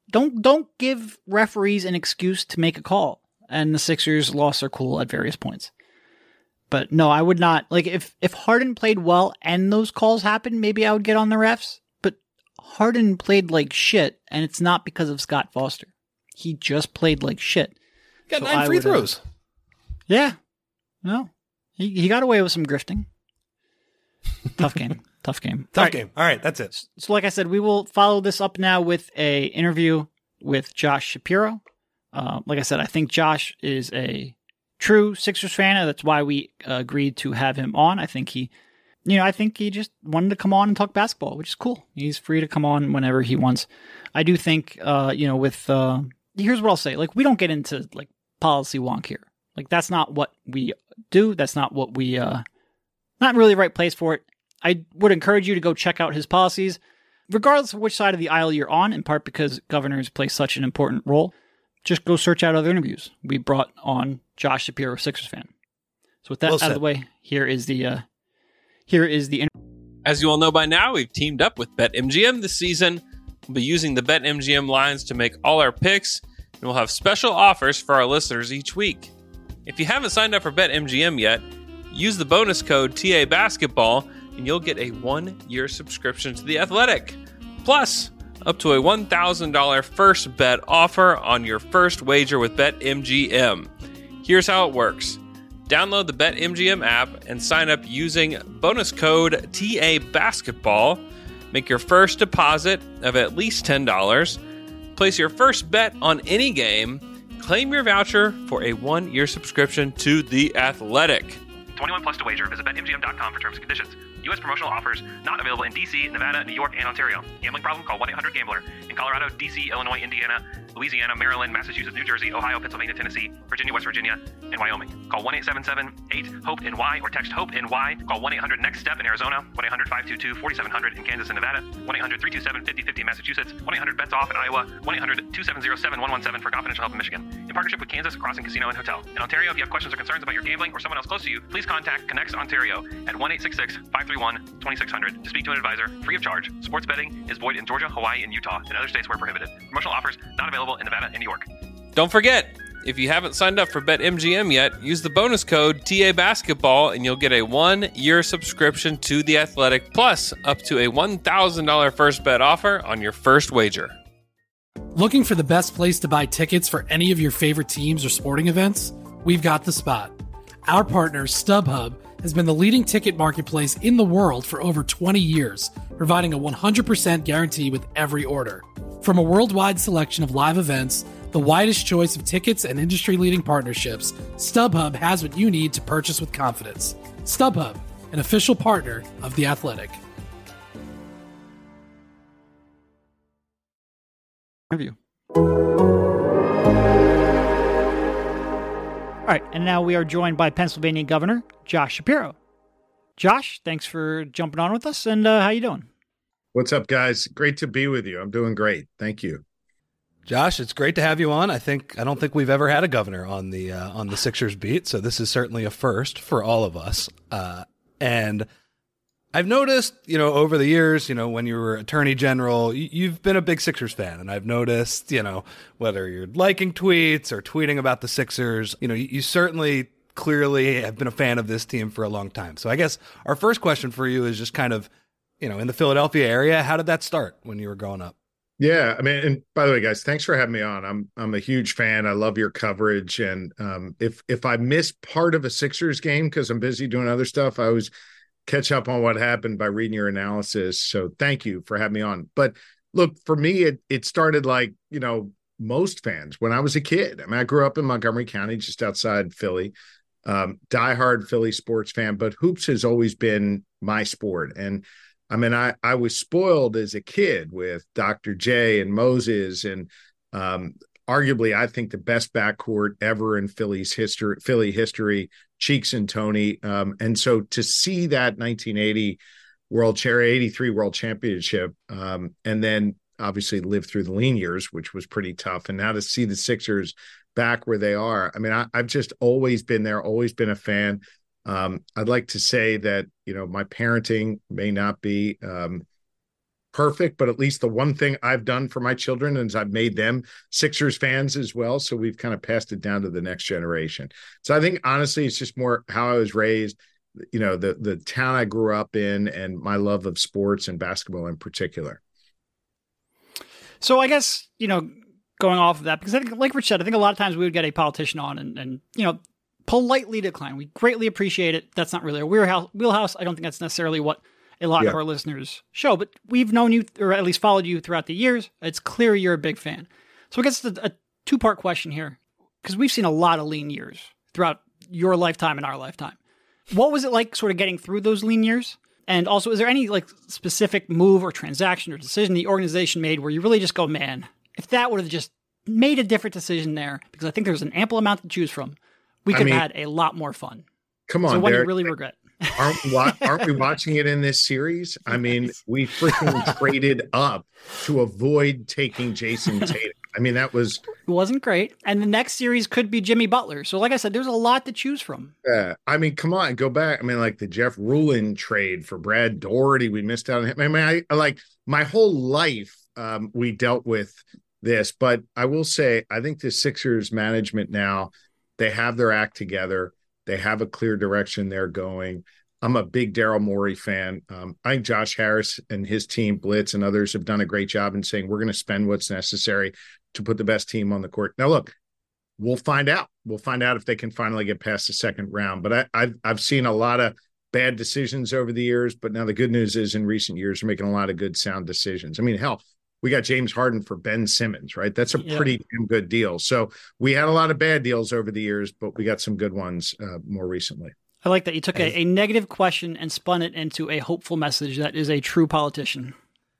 don't don't give referees an excuse to make a call. And the Sixers lost their cool at various points. But no, I would not. Like, if, if Harden played well and those calls happened, maybe I would get on the refs. But Harden played like shit, and it's not because of Scott Foster. He just played like shit. Got So nine I free would, uh, throws. Yeah. No. He, he got away with some grifting. Tough game. Tough game. Tough All right. game. All right, that's it. So like I said, we will follow this up now with a interview with Josh Shapiro. Uh, like I said, I think Josh is a true Sixers fan. That's why we uh, agreed to have him on. I think he, you know, I think he just wanted to come on and talk basketball, which is cool. He's free to come on whenever he wants. I do think, uh, you know, with, uh, here's what I'll say. Like, we don't get into like policy wonk here. Like, that's not what we do. That's not what we, uh, not really the right place for it. I would encourage you to go check out his policies, regardless of which side of the aisle you're on, in part because governors play such an important role. Just go search out other interviews. We brought on Josh Shapiro, Sixers fan. So with that Well out said. of the way, here is the uh, here is the interview. As you all know by now, we've teamed up with BetMGM this season. We'll be using the BetMGM lines to make all our picks, and we'll have special offers for our listeners each week. If you haven't signed up for BetMGM yet, use the bonus code T A Basketball, and you'll get a one-year subscription to The Athletic. Plus, up to a one thousand dollars first bet offer on your first wager with BetMGM. Here's how it works. Download the BetMGM app and sign up using bonus code T A Basketball. Make your first deposit of at least ten dollars. Place your first bet on any game. Claim your voucher for a one-year subscription to The Athletic. twenty-one plus to wager. Visit Bet M G M dot com for terms and conditions. U S promotional offers not available in D C, Nevada, New York, and Ontario. Gambling problem? Call one eight hundred gambler. In Colorado, D C, Illinois, Indiana, Louisiana, Maryland, Massachusetts, New Jersey, Ohio, Pennsylvania, Tennessee, Virginia, West Virginia, and Wyoming. Call one eight seven seven eight hope N Y or text HOPE-NY. Call one eight hundred next step in Arizona, one eight hundred five two two four seven zero zero in Kansas and Nevada, one eight hundred three two seven five zero five zero in Massachusetts, one eight hundred bets off in Iowa, one eight hundred two seven zero seven one one seven for confidential help in Michigan. In partnership with Kansas Crossing Casino and Hotel. In Ontario, if you have questions or concerns about your gambling or someone else close to you, please contact Connects Ontario at one eight six six five three one two six zero zero to speak to an advisor, free of charge. Sports betting is void in Georgia, Hawaii, and Utah, and other states where prohibited. Promotional offers not available in Nevada and New York. Don't forget, if you haven't signed up for BetMGM yet, use the bonus code T A Basketball and you'll get a one-year subscription to The Athletic, plus up to a one thousand dollars first bet offer on your first wager. Looking for the best place to buy tickets for any of your favorite teams or sporting events? We've got the spot. Our partner, StubHub, has been the leading ticket marketplace in the world for over twenty years, providing a one hundred percent guarantee with every order. From a worldwide selection of live events, the widest choice of tickets and industry-leading partnerships, StubHub has what you need to purchase with confidence. StubHub, an official partner of The Athletic. Interview. All right, and now we are joined by Pennsylvania Governor Josh Shapiro. Josh, thanks for jumping on with us, and uh, how you doing? What's up, guys? Great to be with you. I'm doing great. Thank you. Josh, it's great to have you on. I think I don't think we've ever had a governor on the uh, on the Sixers beat, so this is certainly a first for all of us. Uh, and I've noticed, you know, over the years, you know, when you were Attorney General, you, you've been a big Sixers fan, and I've noticed, you know, whether you're liking tweets or tweeting about the Sixers, you know, you, you certainly clearly have been a fan of this team for a long time. So I guess our first question for you is just kind of, you know, in the Philadelphia area, how did that start when you were growing up? Yeah, I mean, and by the way, guys, thanks for having me on. I'm I'm a huge fan. I love your coverage, and um, if if I miss part of a Sixers game because I'm busy doing other stuff, I always catch up on what happened by reading your analysis. So thank you for having me on. But look, for me, it it started like, you know, most fans when I was a kid. I mean, I grew up in Montgomery County, just outside Philly. Um, diehard Philly sports fan, but hoops has always been my sport. And I mean, I, I was spoiled as a kid with Doctor J and Moses, and um, arguably, I think the best backcourt ever in Philly's history, Philly history, Cheeks and Tony. Um, and so to see that nineteen eighty World Championship, eighty-three World Championship, um, and then obviously live through the lean years, which was pretty tough, and now to see the Sixers back where they are. I mean, I, I've just always been there, always been a fan. Um, I'd like to say that, you know, my parenting may not be um, perfect, but at least the one thing I've done for my children is I've made them Sixers fans as well. So we've kind of passed it down to the next generation. So I think honestly, it's just more how I was raised, you know, the the town I grew up in, and my love of sports and basketball in particular. So I guess, you know, going off of that, because I think, like Rich said, I think a lot of times we would get a politician on and, and you know, politely decline. We greatly appreciate it. That's not really our wheelhouse. wheelhouse. I don't think that's necessarily what a lot yeah. of our listeners show, but we've known you, or at least followed you throughout the years. It's clear you're a big fan. So I guess it's a, a two-part question here, because we've seen a lot of lean years throughout your lifetime and our lifetime. What was it like sort of getting through those lean years? And also, is there any like specific move or transaction or decision the organization made where you really just go, man, if that would have just made a different decision there, because I think there's an ample amount to choose from, we could I mean, have had a lot more fun. Come on, so what Derek, do you really regret? Aren't we, aren't we watching it in this series? I mean, we freaking traded up to avoid taking Jason Tatum. I mean, that was... It wasn't great. And the next series could be Jimmy Butler. So like I said, there's a lot to choose from. Yeah. I mean, come on, go back. I mean, like the Jeff Rulin trade for Brad Daugherty, we missed out on him. I mean, I, I like my whole life, um, we dealt with this. But I will say, I think the Sixers management now, they have their act together. They have a clear direction they're going. I'm a big Daryl Morey fan. Um, I think Josh Harris and his team, Blitz and others, have done a great job in saying we're going to spend what's necessary to put the best team on the court. Now, look, we'll find out. We'll find out if they can finally get past the second round. But I, I've, I've seen a lot of bad decisions over the years. But now the good news is in recent years, we're making a lot of good, sound decisions. I mean, hell, we got James Harden for Ben Simmons, right? That's a yeah. pretty damn good deal. So we had a lot of bad deals over the years, but we got some good ones uh, more recently. I like that you took a, a negative question and spun it into a hopeful message. That is a true politician.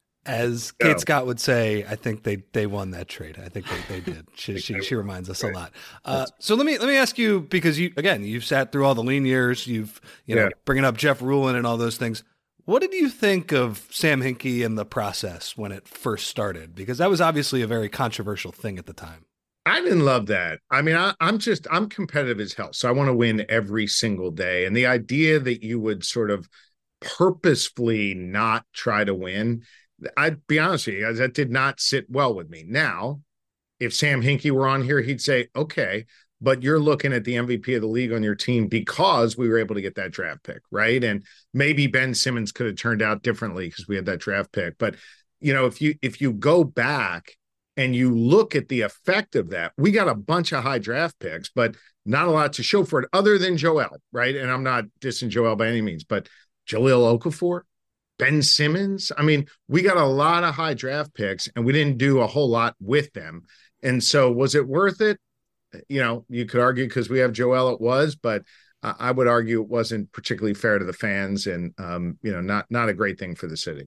As Kate oh. Scott would say, I think they they won that trade. I think they, they did. She, she she reminds us a lot. Uh, so let me let me ask you, because you again you've sat through all the lean years. You've you know yeah. bringing up Jeff Rulin and all those things. What did you think of Sam Hinkie and the process when it first started? Because that was obviously a very controversial thing at the time. I didn't love that. I mean, I, I'm just, I'm competitive as hell. So I want to win every single day. And the idea that you would sort of purposefully not try to win, I'd be honest with you, that did not sit well with me. Now, if Sam Hinkie were on here, he'd say, okay, but you're looking at the M V P of the league on your team because we were able to get that draft pick, right? And maybe Ben Simmons could have turned out differently because we had that draft pick. But, you know, if you if you go back and you look at the effect of that, we got a bunch of high draft picks, but not a lot to show for it other than Joel, right? And I'm not dissing Joel by any means, but Jahlil Okafor, Ben Simmons. I mean, we got a lot of high draft picks and we didn't do a whole lot with them. And so was it worth it? You know, you could argue because we have Joel, it was, but uh, I would argue it wasn't particularly fair to the fans and, um, you know, not not a great thing for the city.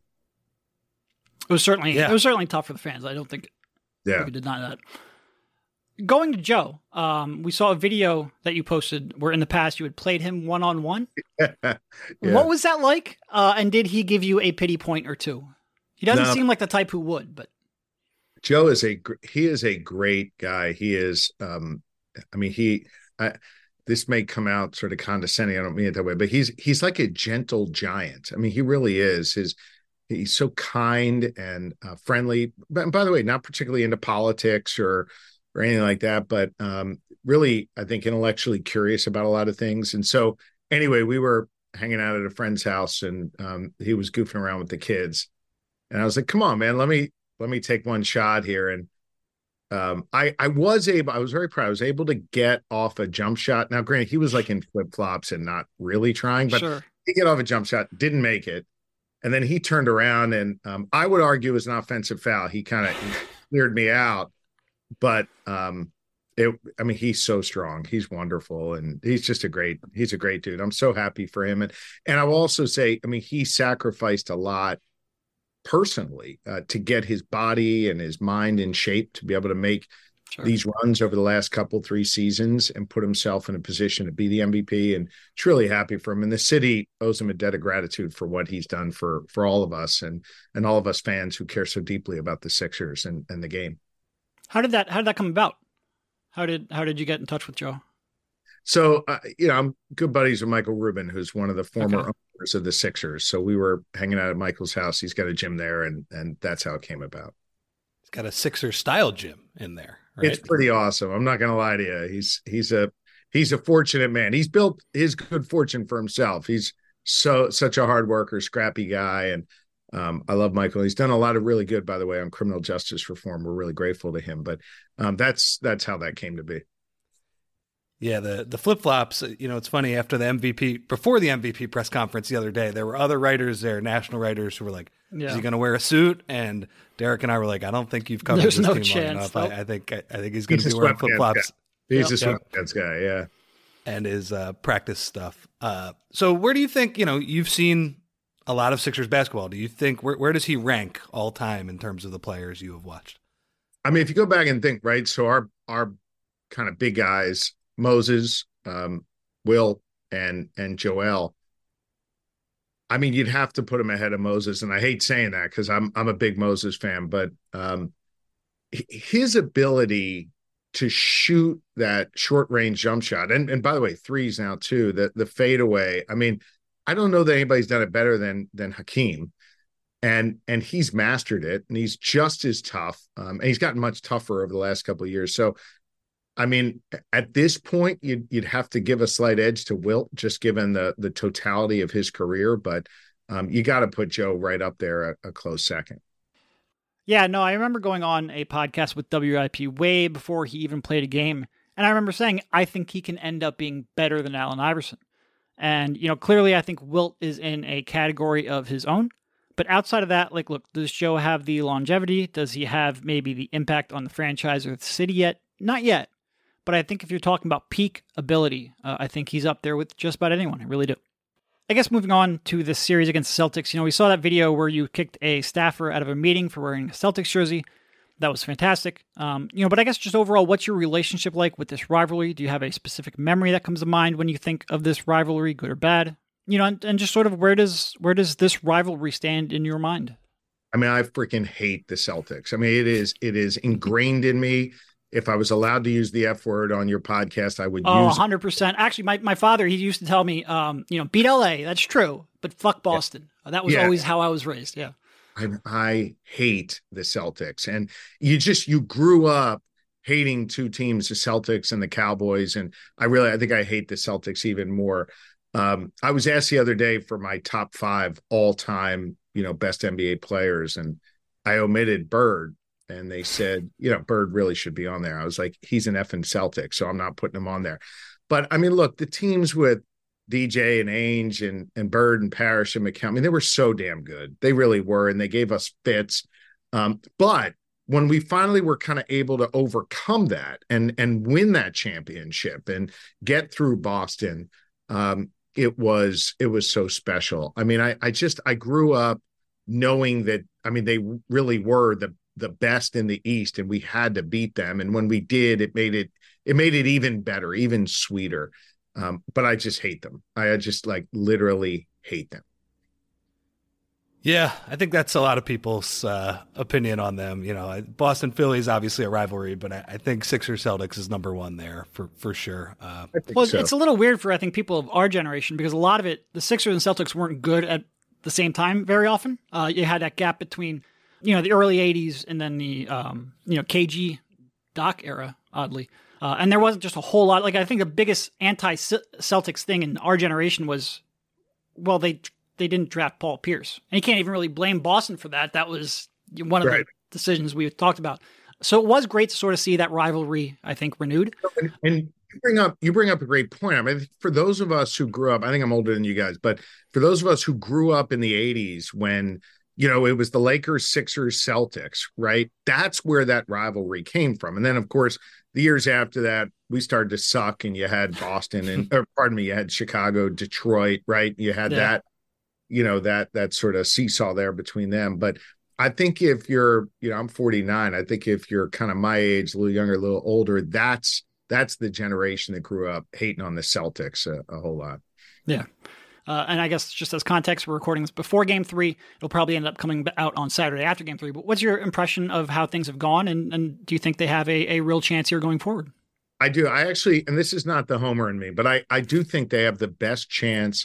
It was certainly yeah. it was certainly tough for the fans. I don't think yeah. we could deny that. Going to Joe, um, we saw a video that you posted where in the past you had played him one-on-one. yeah. What was that like? Uh, and did he give you a pity point or two? He doesn't no. seem like the type who would, but. Joe is a he is a great guy. He is, um, I mean, he. I, this may come out sort of condescending. I don't mean it that way, but he's he's like a gentle giant. I mean, he really is. His he's so kind and uh, friendly. But by the way, not particularly into politics or or anything like that, but um, really, I think intellectually curious about a lot of things. And so, anyway, we were hanging out at a friend's house, and um, he was goofing around with the kids, and I was like, "Come on, man, let me." Let me take one shot here. And um, I, I was able, I was very proud. I was able to get off a jump shot. Now, granted, he was like in flip flops and not really trying, but sure. he get off a jump shot, didn't make it. And then he turned around and um, I would argue it was an offensive foul. He kind of cleared me out, but um, it, I mean, he's so strong. He's wonderful. And he's just a great, he's a great dude. I'm so happy for him. And, and I will also say, I mean, he sacrificed a lot personally uh, to get his body and his mind in shape to be able to make sure. these runs over the last couple, three seasons and put himself in a position to be the M V P. And it's really happy for him. And the city owes him a debt of gratitude for what he's done for, for all of us and, and all of us fans who care so deeply about the Sixers and, and the game. How did that, how did that come about? How did, how did you get in touch with Joe? So, uh, you know, I'm good buddies with Michael Rubin, who's one of the former okay. members of the Sixers. So we were hanging out at Michael's house. He's got a gym there, and and that's how it came about. He's got a Sixers style gym in there. Right? It's pretty awesome. I'm not going to lie to you. He's he's a he's a fortunate man. He's built his good fortune for himself. He's so such a hard worker, scrappy guy, and um, I love Michael. He's done a lot of really good, by the way, on criminal justice reform. We're really grateful to him. But um, that's that's how that came to be. Yeah, the the flip flops. You know, it's funny. After the M V P, before the M V P press conference the other day, there were other writers there, national writers, who were like, yeah. "Is he going to wear a suit?" And Derek and I were like, "I don't think you've covered There's this no team chance, long enough. nope. I, I think I, I think he's going to be wearing flip flops." He's yep. a sweatpants guy, yeah. And his uh, practice stuff. Uh, so where do you think, you know, you've seen a lot of Sixers basketball. Do you think, where, where does he rank all time in terms of the players you have watched? I mean, if you go back and think, right, so our our kind of big guys, Moses, um, Will, and and Joel, I mean, you'd have to put him ahead of Moses. And I hate saying that because I'm I'm a big Moses fan, but um, his ability to shoot that short range jump shot, and and by the way, threes now too, the the fadeaway. I mean, I don't know that anybody's done it better than than Hakeem, and and he's mastered it, and he's just as tough, um, and he's gotten much tougher over the last couple of years. So, I mean, at this point, you'd you'd have to give a slight edge to Wilt, just given the the totality of his career, but um, you got to put Joe right up there, a, a close second. Yeah, no, I remember going on a podcast with W I P way before he even played a game. And I remember saying, I think he can end up being better than Allen Iverson. And, you know, clearly I think Wilt is in a category of his own. But outside of that, like, look, does Joe have the longevity? Does he have maybe the impact on the franchise or the city yet? Not yet. But I think if you're talking about peak ability, uh, I think he's up there with just about anyone. I really do. I guess moving on to this series against the Celtics, you know, we saw that video where you kicked a staffer out of a meeting for wearing a Celtics jersey. That was fantastic. Um, you know, but I guess just overall, what's your relationship like with this rivalry? Do you have a specific memory that comes to mind when you think of this rivalry, good or bad? You know, and, and just sort of where does where does this rivalry stand in your mind? I mean, I freaking hate the Celtics. I mean, it is it is ingrained in me. If I was allowed to use the F word on your podcast, I would oh, use one hundred percent. Actually, my, my father, he used to tell me, um, you know, beat L A, that's true, but fuck Boston. Yeah. That was yeah. always how I was raised, yeah. I, I hate the Celtics. And you just, you grew up hating two teams, the Celtics and the Cowboys. And I really, I think I hate the Celtics even more. Um, I was asked the other day for my top five all-time, you know, best N B A players, and I omitted Bird. And they said, you know, Bird really should be on there. I was like, he's an effing Celtic, so I'm not putting him on there. But I mean, look, the teams with D J and Ainge and, and Bird and Parrish and McCown, I mean, they were so damn good. They really were. And they gave us fits. Um, but when we finally were kind of able to overcome that and, and win that championship and get through Boston, um, it was, it was so special. I mean, I, I just, I grew up knowing that, I mean, they really were the, the best in the East, and we had to beat them. And when we did, it made it, it made it even better, even sweeter. Um, but I just hate them. I just like literally hate them. Yeah, I think that's a lot of people's uh, opinion on them. You know, Boston Philly is obviously a rivalry, but I, I think Sixers Celtics is number one there for for sure. Uh, well, so. It's a little weird for I think people of our generation because a lot of it, the Sixers and Celtics weren't good at the same time very often. Uh, you had that gap between, you know, the early eighties and then the, um, you know, K G Doc era, oddly. Uh, and there wasn't just a whole lot. Like, I think the biggest anti-Celtics thing in our generation was, well, they they didn't draft Paul Pierce. And you can't even really blame Boston for that. That was one of right. the decisions we talked about. So it was great to sort of see that rivalry, I think, renewed. And, and you bring up you bring up a great point. I mean, for those of us who grew up, I think I'm older than you guys, but for those of us who grew up in the eighties when, you know, it was the Lakers, Sixers, Celtics, right? That's where that rivalry came from. And then, of course, the years after that, we started to suck, and you had Boston and, or pardon me, you had Chicago, Detroit, right? You had yeah. that, you know, that that sort of seesaw there between them. But I think if you're, you know, I'm forty-nine. I think if you're kind of my age, a little younger, a little older, that's that's the generation that grew up hating on the Celtics a, a whole lot. Yeah. Uh, and I guess just as context, we're recording this before game three. It'll probably end up coming out on Saturday after game three. But what's your impression of how things have gone? And, and do you think they have a, a real chance here going forward? I do. I actually, and this is not the homer in me, but I, I do think they have the best chance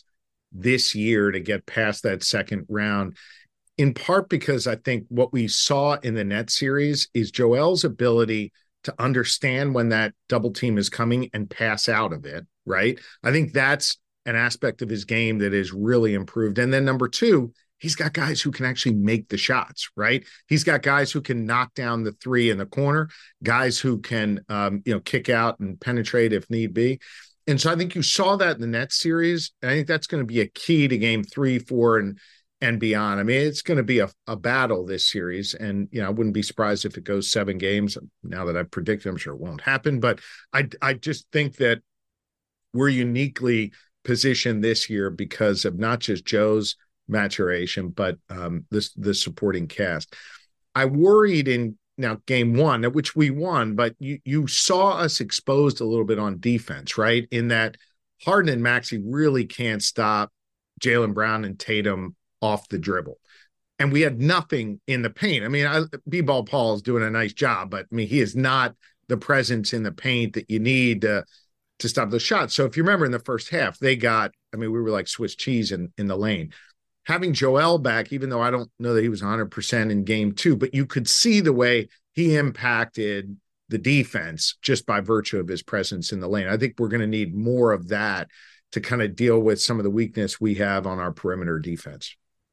this year to get past that second round, in part because I think what we saw in the Nets series is Joel's ability to understand when that double team is coming and pass out of it, right? I think that's an aspect of his game that is really improved. And then number two, he's got guys who can actually make the shots, right? He's got guys who can knock down the three in the corner, guys who can, um, you know, kick out and penetrate if need be. And so I think you saw that in the Nets series. And I think that's going to be a key to game three, four, and and beyond. I mean, it's going to be a, a battle this series. And, you know, I wouldn't be surprised if it goes seven games. Now that I've predicted, I'm sure it won't happen. But I, I just think that we're uniquely positioned this year because of not just Joe's maturation, but um, this the supporting cast. I worried in now game one, which we won, but you you saw us exposed a little bit on defense, right? In that Harden and Maxey really can't stop Jaylen Brown and Tatum off the dribble. And we had nothing in the paint. I mean, I, B-Ball Paul is doing a nice job, but I mean, he is not the presence in the paint that you need to, to stop the shots. So if you remember in the first half, they got, I mean, we were like Swiss cheese in, in the lane. Having Joel back, even though I don't know that he was one hundred percent in game two, but you could see the way he impacted the defense just by virtue of his presence in the lane. I think we're going to need more of that to kind of deal with some of the weakness we have on our perimeter defense.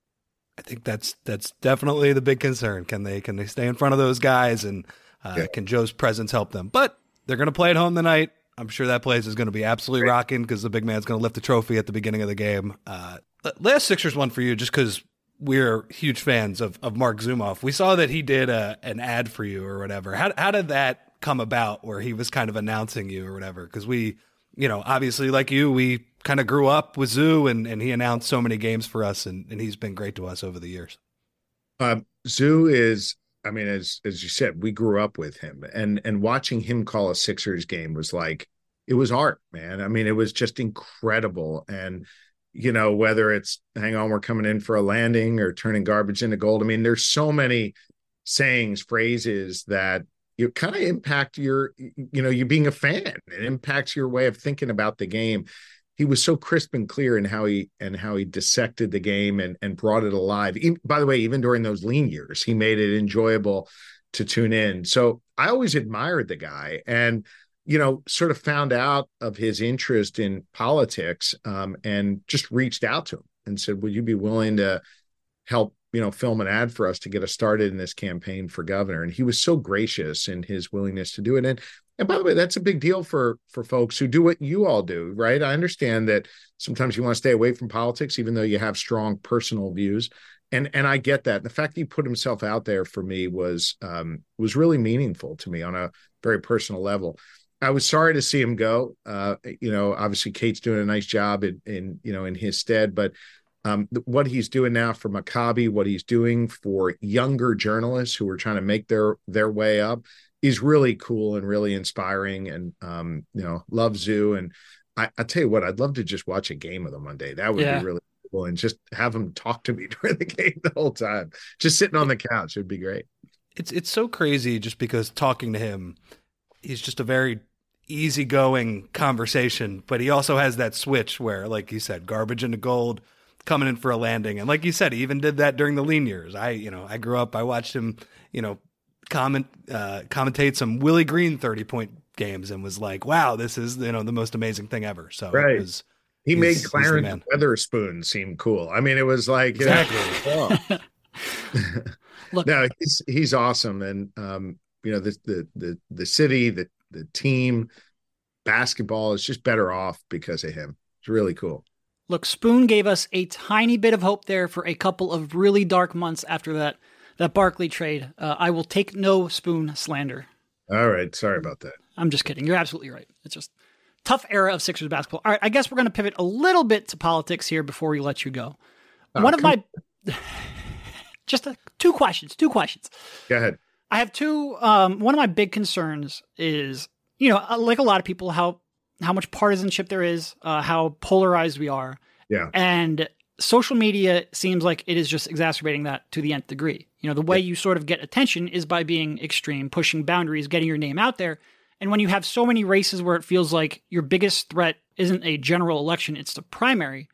I think that's that's definitely the big concern. Can they can they stay in front of those guys, and uh, yeah. can Joe's presence help them? But they're going to play at home tonight. I'm sure that place is going to be absolutely right. rocking because the big man's going to lift the trophy at the beginning of the game. Uh, last Sixers one for you, just because we're huge fans of, of Mark Zumoff. We saw that he did a, an ad for you or whatever. How how did that come about where he was kind of announcing you or whatever? Because we, you know, obviously like you, we kind of grew up with Zoo, and, and he announced so many games for us, and, and he's been great to us over the years. Um, Zoo is, I mean, as as you said, we grew up with him, and and watching him call a Sixers game was like, it was art, man. I mean, it was just incredible. And, you know, whether it's hang on, we're coming in for a landing, or turning garbage into gold. I mean, there's so many sayings, phrases that you kind of impact your, you know, you being a fan. It impacts your way of thinking about the game. He was so crisp and clear in how he and how he dissected the game and, and brought it alive. Even, by the way, even during those lean years, he made it enjoyable to tune in. So I always admired the guy, and, you know, sort of found out of his interest in politics, um, and just reached out to him and said, would you be willing to help, you know, film an ad for us to get us started in this campaign for governor? And he was so gracious in his willingness to do it. And And by the way, that's a big deal for, for folks who do what you all do, right? I understand that sometimes you want to stay away from politics, even though you have strong personal views. And, and I get that. The fact that he put himself out there for me was, um, was really meaningful to me on a very personal level. I was sorry to see him go. Uh, you know, obviously Kate's doing a nice job in, in you know, in his stead, but um, what he's doing now for Maccabi, what he's doing for younger journalists who are trying to make their, their way up, is really cool and really inspiring. And, um, you know, love Zoo. And I, I tell you what, I'd love to just watch a game of them one day. That would yeah. be really cool. And just have him talk to me during the game the whole time, just sitting on the couch. It'd be great. It's, it's so crazy just because talking to him, he's just a very easygoing conversation, but he also has that switch where, like you said, garbage into gold, coming in for a landing. And like you said, he even did that during the lean years. I, you know, I grew up, I watched him, you know, comment uh commentate some Willie Green thirty point games and was like, wow, this is, you know, the most amazing thing ever. So right. it was, he made Clarence Weatherspoon seem cool. I mean, it was like, exactly. You know, Look, no, he's he's awesome. And um, you know, the the the the city, the the team, basketball is just better off because of him. It's really cool. Look, Spoon gave us a tiny bit of hope there for a couple of really dark months after that That Barkley trade. Uh, I will take no Spoon slander. All right. Sorry about that. I'm just kidding. You're absolutely right. It's just tough era of Sixers basketball. All right. I guess we're going to pivot a little bit to politics here before we let you go. Oh, One of my, just a, two questions, two questions. Go ahead. I have two. Um, one of my big concerns is, you know, like a lot of people, how, how much partisanship there is, uh, how polarized we are. Yeah. And social media seems like it is just exacerbating that to the nth degree. You know, the way you sort of get attention is by being extreme, pushing boundaries, getting your name out there. And when you have so many races where it feels like your biggest threat isn't a general election, it's the primary,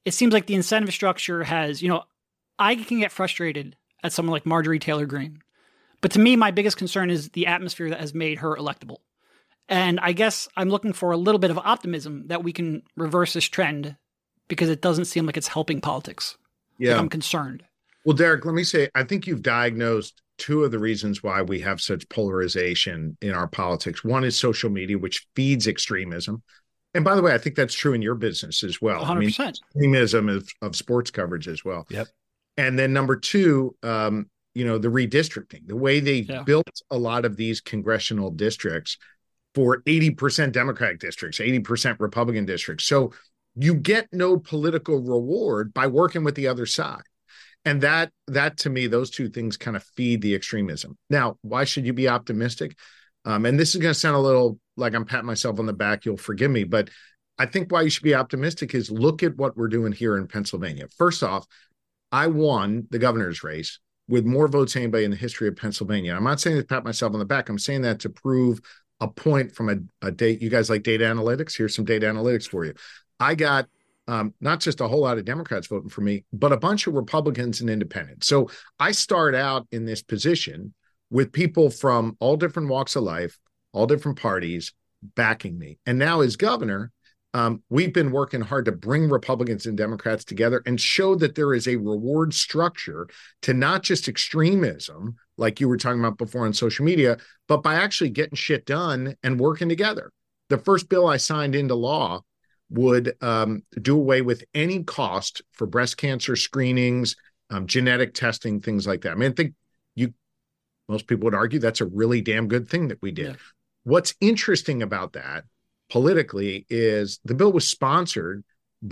it seems like the incentive structure has, you know, I can get frustrated at someone like Marjorie Taylor Greene. But to me, my biggest concern is the atmosphere that has made her electable. And I guess I'm looking for a little bit of optimism that we can reverse this trend because it doesn't seem like it's helping politics. Yeah. Like I'm concerned. Well, Derek, let me say, I think you've diagnosed two of the reasons why we have such polarization in our politics. One is social media, which feeds extremism. And by the way, I think that's true in your business as well. one hundred percent. I mean, extremism of, of sports coverage as well. Yep. And then number two, um, you know, the redistricting, the way they Yeah. built a lot of these congressional districts for eighty percent Democratic districts, eighty percent Republican districts. So you get no political reward by working with the other side. And that, that to me, those two things kind of feed the extremism. Now, why should you be optimistic? Um, and this is going to sound a little like I'm patting myself on the back. You'll forgive me, but I think why you should be optimistic is look at what we're doing here in Pennsylvania. First off, I won the governor's race with more votes than anybody in the history of Pennsylvania. I'm not saying to pat myself on the back. I'm saying that to prove a point from a, a date. You guys like data analytics? Here's some data analytics for you. I got um, not just a whole lot of Democrats voting for me, but a bunch of Republicans and independents. So I start out in this position with people from all different walks of life, all different parties backing me. And now as governor, um, we've been working hard to bring Republicans and Democrats together and show that there is a reward structure to not just extremism, like you were talking about before on social media, but by actually getting shit done and working together. The first bill I signed into law would um, do away with any cost for breast cancer screenings, um, genetic testing, things like that. I mean, I think you, most people would argue that's a really damn good thing that we did. Yeah. What's interesting about that politically is the bill was sponsored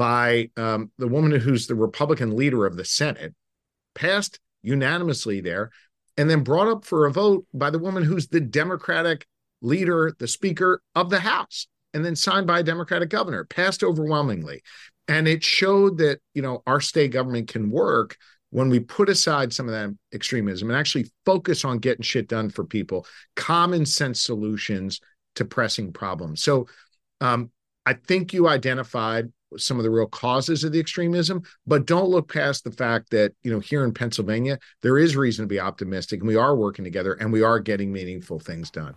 by um, the woman who's the Republican leader of the Senate, passed unanimously there, and then brought up for a vote by the woman who's the Democratic leader, the Speaker of the House, and then signed by a Democratic governor, passed overwhelmingly. And it showed that, you know, our state government can work when we put aside some of that extremism and actually focus on getting shit done for people, common sense solutions to pressing problems. So um, I think you identified some of the real causes of the extremism, but don't look past the fact that, you know, here in Pennsylvania, there is reason to be optimistic and we are working together and we are getting meaningful things done.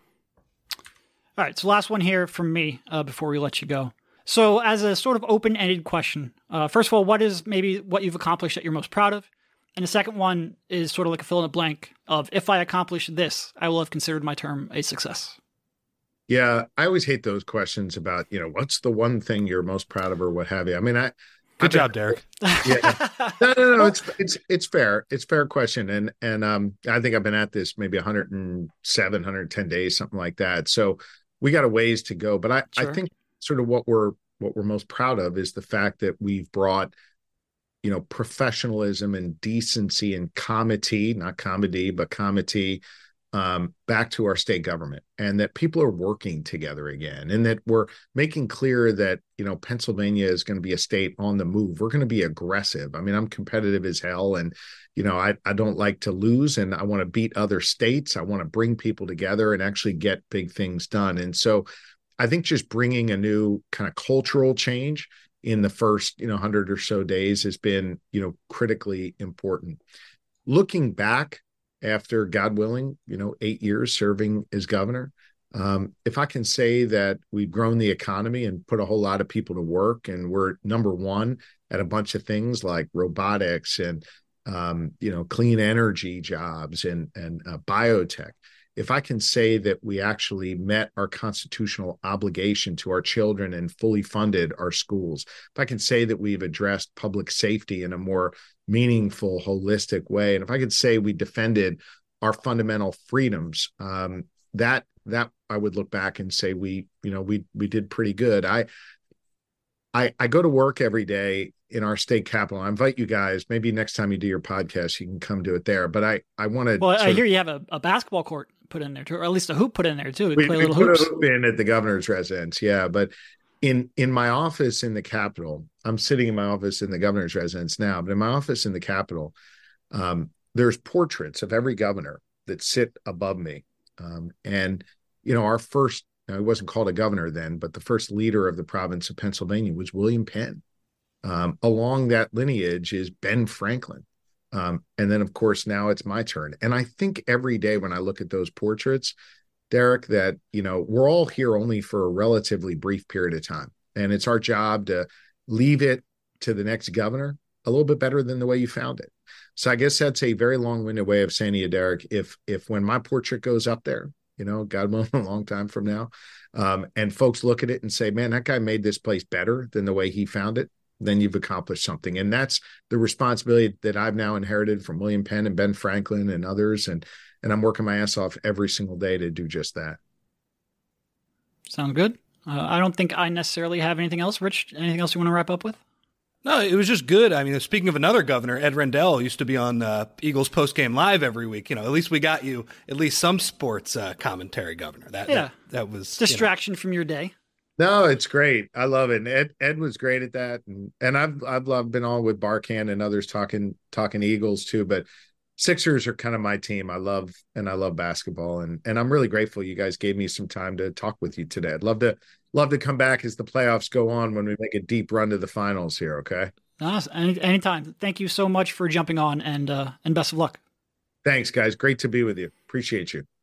All right. So last one here from me uh, before we let you go. So as a sort of open-ended question, uh, first of all, what is maybe what you've accomplished that you're most proud of? And the second one is sort of like a fill in the blank of if I accomplish this, I will have considered my term a success. Yeah, I always hate those questions about, you know, what's the one thing you're most proud of or what have you. I mean, I good I, job, Derek. Yeah, no, no, no, it's it's it's fair. It's a fair question, and and um, I think I've been at this maybe one hundred seven, one hundred ten days, something like that. So we got a ways to go, but I sure. I think sort of what we're what we're most proud of is the fact that we've brought, you know, professionalism and decency and comity, not comedy, but comity, um, back to our state government, and that people are working together again, and that we're making clear that, you know, Pennsylvania is going to be a state on the move. We're going to be aggressive. I mean, I'm competitive as hell, and, you know, I, I don't like to lose, and I want to beat other states. I want to bring people together and actually get big things done. And so I think just bringing a new kind of cultural change in the first, you know, hundred or so days has been, you know, critically important. Looking back after, God willing, you know, eight years serving as governor, um, if I can say that we've grown the economy and put a whole lot of people to work, and we're number one at a bunch of things like robotics and, um, you know, clean energy jobs and, and uh, biotech. If I can say that we actually met our constitutional obligation to our children and fully funded our schools, if I can say that we've addressed public safety in a more meaningful, holistic way, and if I could say we defended our fundamental freedoms, um, that that I would look back and say we, you know, we we did pretty good. I I, I go to work every day in our state capital. I invite you guys, maybe next time you do your podcast, you can come do it there. But I, I want to. Well, I hear you have a, a basketball court put in there too, or at least a hoop put in there too. We, we play we little put hoops. a hoop in at the governor's residence. Yeah. But in, in my office in the Capitol, I'm sitting in my office in the governor's residence now, but in my office in the Capitol, um, there's portraits of every governor that sit above me. Um, and, you know, our first, he wasn't called a governor then, but the first leader of the province of Pennsylvania was William Penn. Um, along that lineage is Ben Franklin. Um, and then, of course, now it's my turn. And I think every day when I look at those portraits, Derek, that, you know, we're all here only for a relatively brief period of time. And it's our job to leave it to the next governor a little bit better than the way you found it. So I guess that's a very long-winded way of saying to you, Derek, if, if when my portrait goes up there, you know, God willing, a long time from now, um, and folks look at it and say, man, that guy made this place better than the way he found it, then you've accomplished something. And that's the responsibility that I've now inherited from William Penn and Ben Franklin and others. And, and I'm working my ass off every single day to do just that. Sounds good. Uh, I don't think I necessarily have anything else. Rich, anything else you want to wrap up with? No, it was just good. I mean, speaking of another governor, Ed Rendell used to be on uh, Eagles Postgame Live every week. You know, at least we got you at least some sports uh, commentary, Governor. That, yeah. that, that was distraction you know. from your day. No, it's great. I love it. And Ed Ed was great at that, and and I've I've loved, been on with Barkan and others talking talking Eagles too. But Sixers are kind of my team. I love and I love basketball, and and I'm really grateful you guys gave me some time to talk with you today. I'd love to love to come back as the playoffs go on when we make a deep run to the finals here. Okay. Awesome. Any anytime. Thank you so much for jumping on, and uh, and best of luck. Thanks, guys. Great to be with you. Appreciate you.